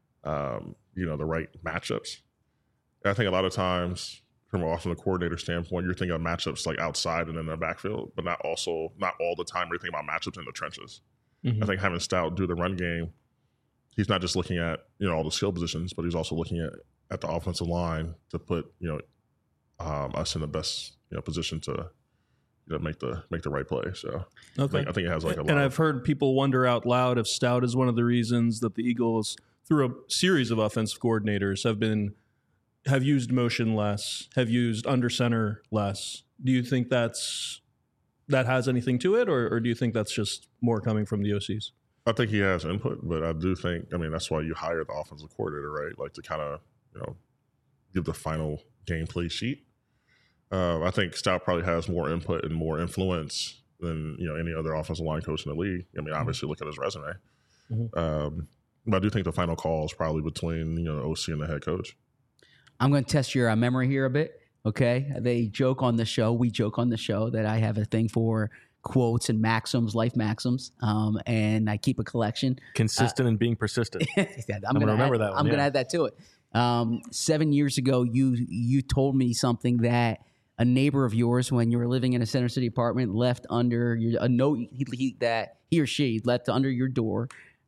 the right matchups. And I think a lot of times, from also a coordinator standpoint, you're thinking of matchups like outside and in the backfield, but not all the time you're thinking about matchups in the trenches. Mm-hmm. I think having Stout do the run game, he's not just looking at all the skill positions, but he's also looking at the offensive line to put us in the best position to make the right play. So Okay. I think it has like a lot. And I've heard people wonder out loud if Stout is one of the reasons that the Eagles, through a series of offensive coordinators, have used motion less, have used under center less. Do you think that has anything to it, or do you think that's just more coming from the OCs? I think he has input, but I do think, that's why you hire the offensive coordinator, right? Like to kind of, give the final gameplay sheet. I think Stout probably has more input and more influence than any other offensive line coach in the league. I mean, obviously, look at his resume. But I do think the final call is probably between OC and the head coach. I'm going to test your memory here a bit. Okay, we joke on the show that I have a thing for quotes and maxims, life maxims, and I keep a collection. Consistent and being persistent. I'm going to remember that one. I'm going to add that to it. 7 years ago, you told me something that a neighbor of yours, when you were living in a Center City apartment, left under a note that he or she left under your door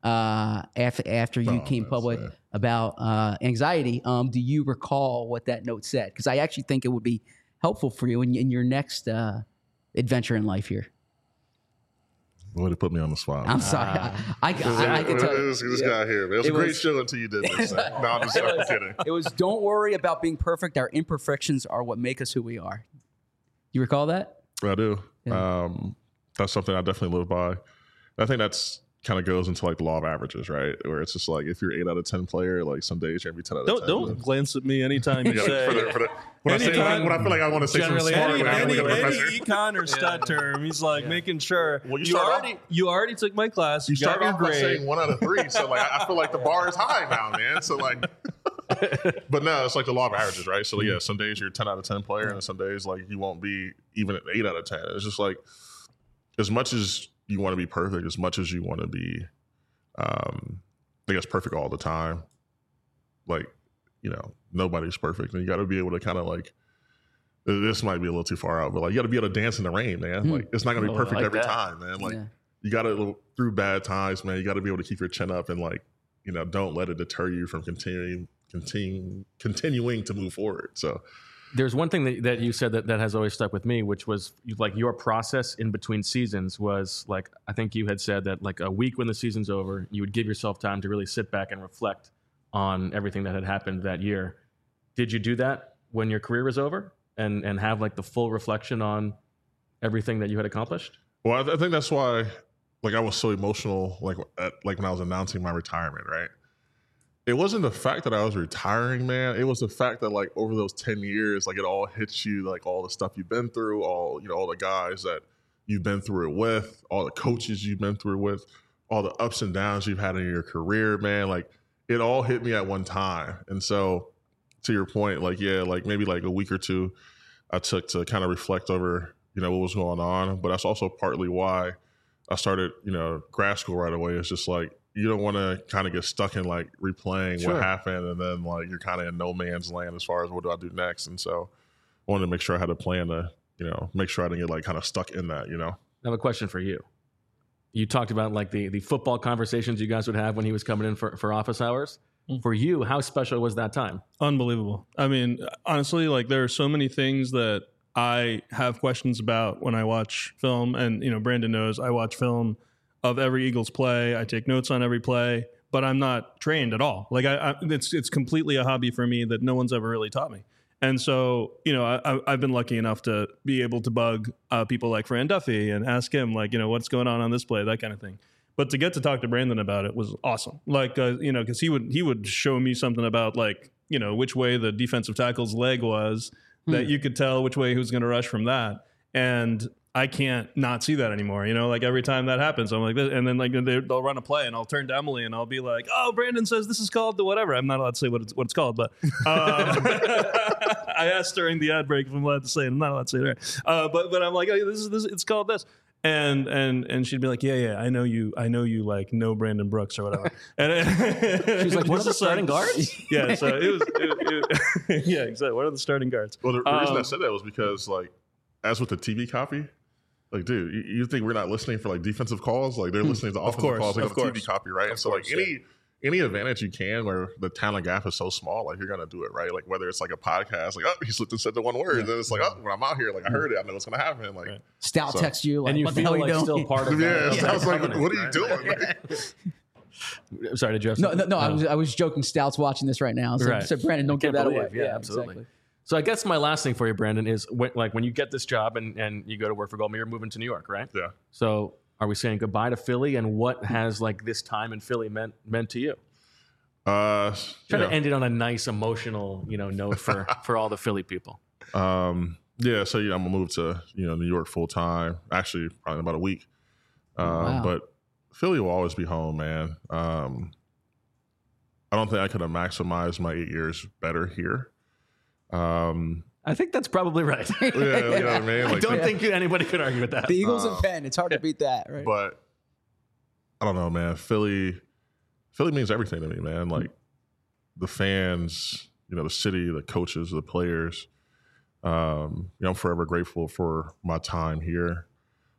after you came public about anxiety. Do you recall what that note said? Because I actually think it would be helpful for you in your next adventure in life here. Would have put me on the spot. I'm sorry. I can tell you. This guy here, man. It was a great show until you did this. No, I'm just kidding. It was, don't worry about being perfect. Our imperfections are what make us who we are. You recall that? I do. Yeah. That's something I definitely live by. I think that's kind of goes into like the law of averages, right? Where it's just like if you're 8 out of 10 player, like some days you're gonna be 10 out of 10. Don't glance at me anytime you say. When I feel like I want to say something smart, any econ or stat term, he's like making sure. Well, you already took my class. You got start your off by grade. saying 1 out of 3, so like I feel like the bar is high now, man. So like, but no, it's like the law of averages, right? So yeah, some days you're 10 out of 10 player, and some days like you won't be even at 8 out of 10. It's just like as much as you want to be perfect, as much as you want to be, I guess, perfect all the time. Like, nobody's perfect, and you got to be able to kind of like. This might be a little too far out, but like you got to be able to dance in the rain, man. Like it's not going to be perfect every time, man. Like you got to through bad times, man. You got to be able to keep your chin up and like don't let it deter you from continuing to move forward. So there's one thing that you said that has always stuck with me, which was like your process in between seasons was like, I think you had said that like a week when the season's over, you would give yourself time to really sit back and reflect on everything that had happened that year. Did you do that when your career was over and have like the full reflection on everything that you had accomplished? Well, I think that's why like I was so emotional like when I was announcing my retirement, right? It wasn't the fact that I was retiring, man. It was the fact that like over those 10 years, like it all hits you, like all the stuff you've been through, all the guys that you've been through it with, all the coaches you've been through it with, all the ups and downs you've had in your career, man. Like it all hit me at one time. And so to your point, like, yeah, like maybe like a week or two I took to kind of reflect over, what was going on. But that's also partly why I started, grad school right away. It's just like, you don't want to kind of get stuck in like replaying what happened. And then like, you're kind of in no man's land as far as what do I do next? And so I wanted to make sure I had a plan to, make sure I didn't get like kind of stuck in that, I have a question for you. You talked about like the football conversations you guys would have when he was coming in for office hours. For you, how special was that time? Unbelievable. I mean, honestly, like there are so many things that I have questions about when I watch film. And, Brandon knows I watch film of every Eagles play. I take notes on every play, but I'm not trained at all. Like it's completely a hobby for me that no one's ever really taught me. And so, I've been lucky enough to be able to bug people like Fran Duffy and ask him like, what's going on this play, that kind of thing. But to get to talk to Brandon about it was awesome. Like, because he would show me something about like, which way the defensive tackle's leg was that you could tell which way he was going to rush from that. And I can't not see that anymore. Like every time that happens, I'm like, and then like they'll run a play and I'll turn to Emily and I'll be like, oh, Brandon says this is called the whatever. I'm not allowed to say what it's called, but I asked during the ad break if I'm allowed to say it. I'm not allowed to say it there. But I'm like, oh, this it's called this. And she'd be like, yeah, I know you like know Brandon Brooks or whatever. And she's like, what are the starting guards? Yeah, so it was yeah, exactly. What are the starting guards? Well, the reason I said that was because like, as with the TV copy, like, dude, you think we're not listening for like defensive calls? Like they're listening to offensive calls like on the TV copy, right? And so like any advantage you can where the talent gap is so small, like you're gonna do it, right? Like whether it's like a podcast, like, oh, he slipped and said the one word, and then it's like, oh, when I'm out here, like I heard it, I know what's gonna happen. Like Stout texts you, like, and you what feel the hell like are you still doing? part of yeah, that. Stout's like, what are you doing? Sorry, did you have No, something? I was joking. Stout's watching this right now. So Brandon, don't give that away. Yeah, absolutely. Exactly. So I guess my last thing for you, Brandon, is when you get this job and you go to work for Goldman, you're moving to New York, right? Yeah. So are we saying goodbye to Philly, and what has like this time in Philly meant to you? Try to end it on a nice emotional, note for all the Philly people. Yeah, so I'm gonna move to New York full time. Actually, probably in about a week. Wow. But Philly will always be home, man. I don't think I could have maximized my 8 years better here. I think that's probably right. Yeah, you know what I mean. I don't think anybody could argue with that. The Eagles and Penn, it's hard to beat that, right? But I don't know, man. Philly means everything to me, man. Like the fans, the city, the coaches, the players. I'm forever grateful for my time here.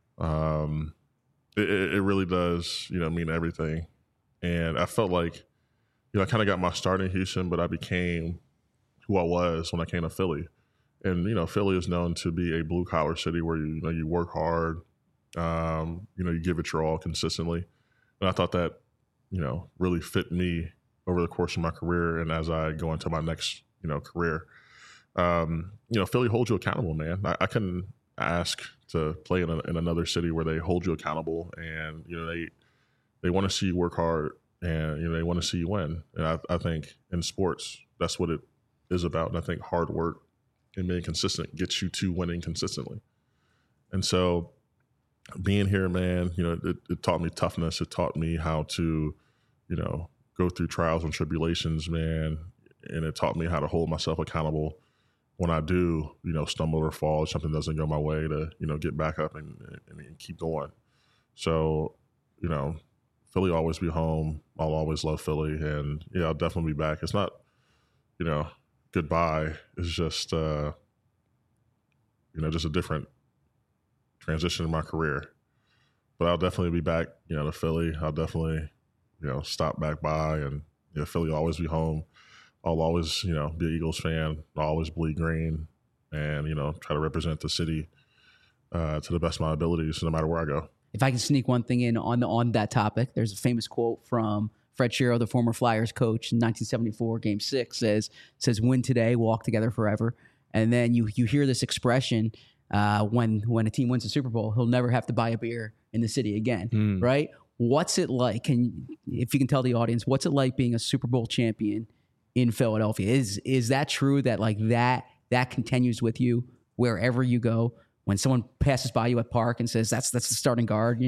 It really does, mean everything. And I felt like, I kind of got my start in Houston, but I became who I was when I came to Philly. And, Philly is known to be a blue collar city where you work hard, you give it your all consistently. And I thought that, really fit me over the course of my career. And as I go into my next, career, Philly holds you accountable, man. I couldn't ask to play in another city where they hold you accountable and, they want to see you work hard and, they want to see you win. And I think in sports, that's what it is about. And I think hard work and being consistent gets you to winning consistently. And so being here, man, it taught me toughness. It taught me how to, go through trials and tribulations, man. And it taught me how to hold myself accountable when I do, stumble or fall, if something doesn't go my way to, get back up and keep going. So, Philly will always be home. I'll always love Philly. And yeah, I'll definitely be back. It's not, goodbye. It's just, just a different transition in my career. But I'll definitely be back, to Philly. I'll definitely, stop back by and Philly will always be home. I'll always, be an Eagles fan. I'll always bleed green and, try to represent the city to the best of my abilities no matter where I go. If I can sneak one thing in on that topic, there's a famous quote from Fred Shero, the former Flyers coach in 1974, Game 6, says, win today, walk together forever. And then you hear this expression when a team wins the Super Bowl, he'll never have to buy a beer in the city again, right? What's it like? If you can tell the audience, what's it like being a Super Bowl champion in Philadelphia? Is that true that like that continues with you wherever you go? When someone passes by you at Park and says that's the starting guard,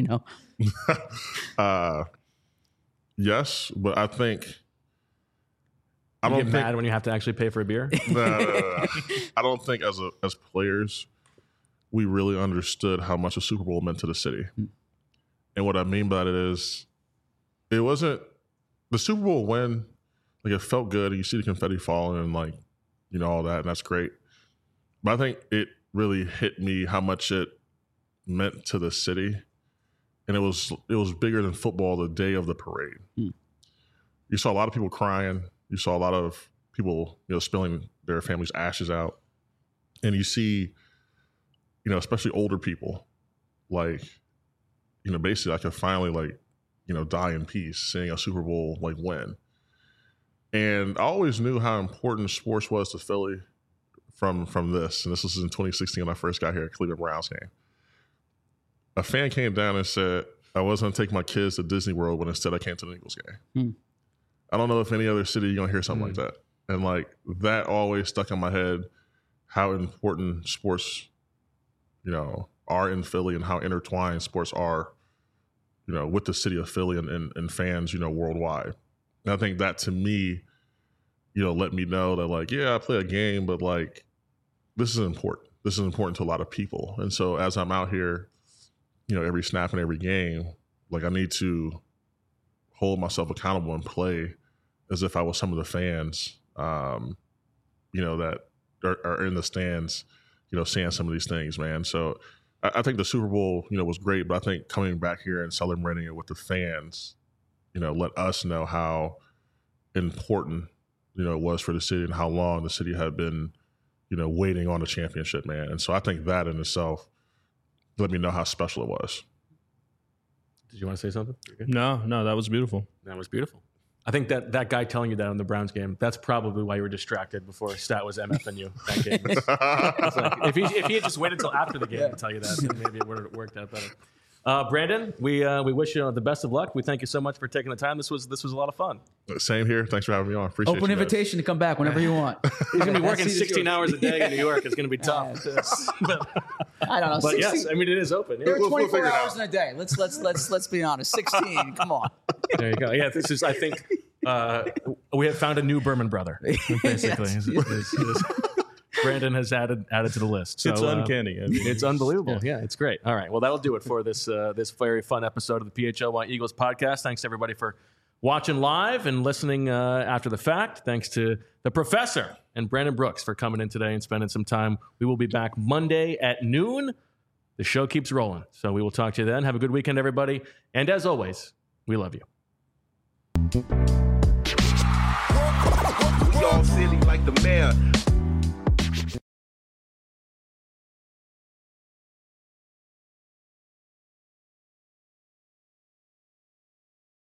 Yes, but I think I don't get mad when you have to actually pay for a beer. No. I don't think as players we really understood how much a Super Bowl meant to the city. And what I mean by it is, it wasn't the Super Bowl win. Like it felt good. You see the confetti falling and like, all that, and that's great. But I think it really hit me how much it meant to the city. And it was bigger than football the day of the parade. You saw a lot of people crying. You saw a lot of people, spilling their family's ashes out. And you see, especially older people, like, basically I could finally like, die in peace seeing a Super Bowl like win. And I always knew how important sports was to Philly from this. And this was in 2016 when I first got here at Cleveland Browns game. A fan came down and said, I wasn't going to take my kids to Disney World when instead I came to the Eagles game. I don't know if any other city you're going to hear something like that. And like that always stuck in my head, how important sports, are in Philly and how intertwined sports are, with the city of Philly and fans, worldwide. And I think that to me, let me know that like, yeah, I play a game, but like, this is important. This is important to a lot of people. And so as I'm out here, every snap and every game, like I need to hold myself accountable and play as if I was some of the fans, that are in the stands, seeing some of these things, man. So I think the Super Bowl, was great, but I think coming back here and celebrating it with the fans, let us know how important, it was for the city and how long the city had been, waiting on a championship, man. And so I think that in itself let me know how special it was. Did you want to say something? No, that was beautiful. That was beautiful. I think that guy telling you that on the Browns game, that's probably why you were distracted before Stat was MFing you that game. It's like, if he had just waited until after the game to tell you that, then maybe it would have worked out better. Brandon, we wish you the best of luck. We thank you so much for taking the time. This was a lot of fun. Same here. Thanks for having me on. Appreciate Open you guys. invitation to come back whenever you want. He's going to be working 16 hours a day in New York. It's going to be tough. I don't know. But 16, yes, I mean, it is open. there are We'll 24 figure it hours out. in a day. Let's be honest. 16. Come on. There you go. Yeah, this is, I think, we have found a new Berman brother, basically. Brandon has added to the list. So, It's uncanny. I mean, it's unbelievable. Yeah, it's great. All right. Well, that'll do it for this very fun episode of the PHLY Eagles podcast. Thanks, everybody, for watching live and listening after the fact. Thanks to the professor and Brandon Brooks for coming in today and spending some time. We will be back Monday at noon. The show keeps rolling. So we will talk to you then. Have a good weekend, everybody. And as always, we love you. We all silly like the mayor.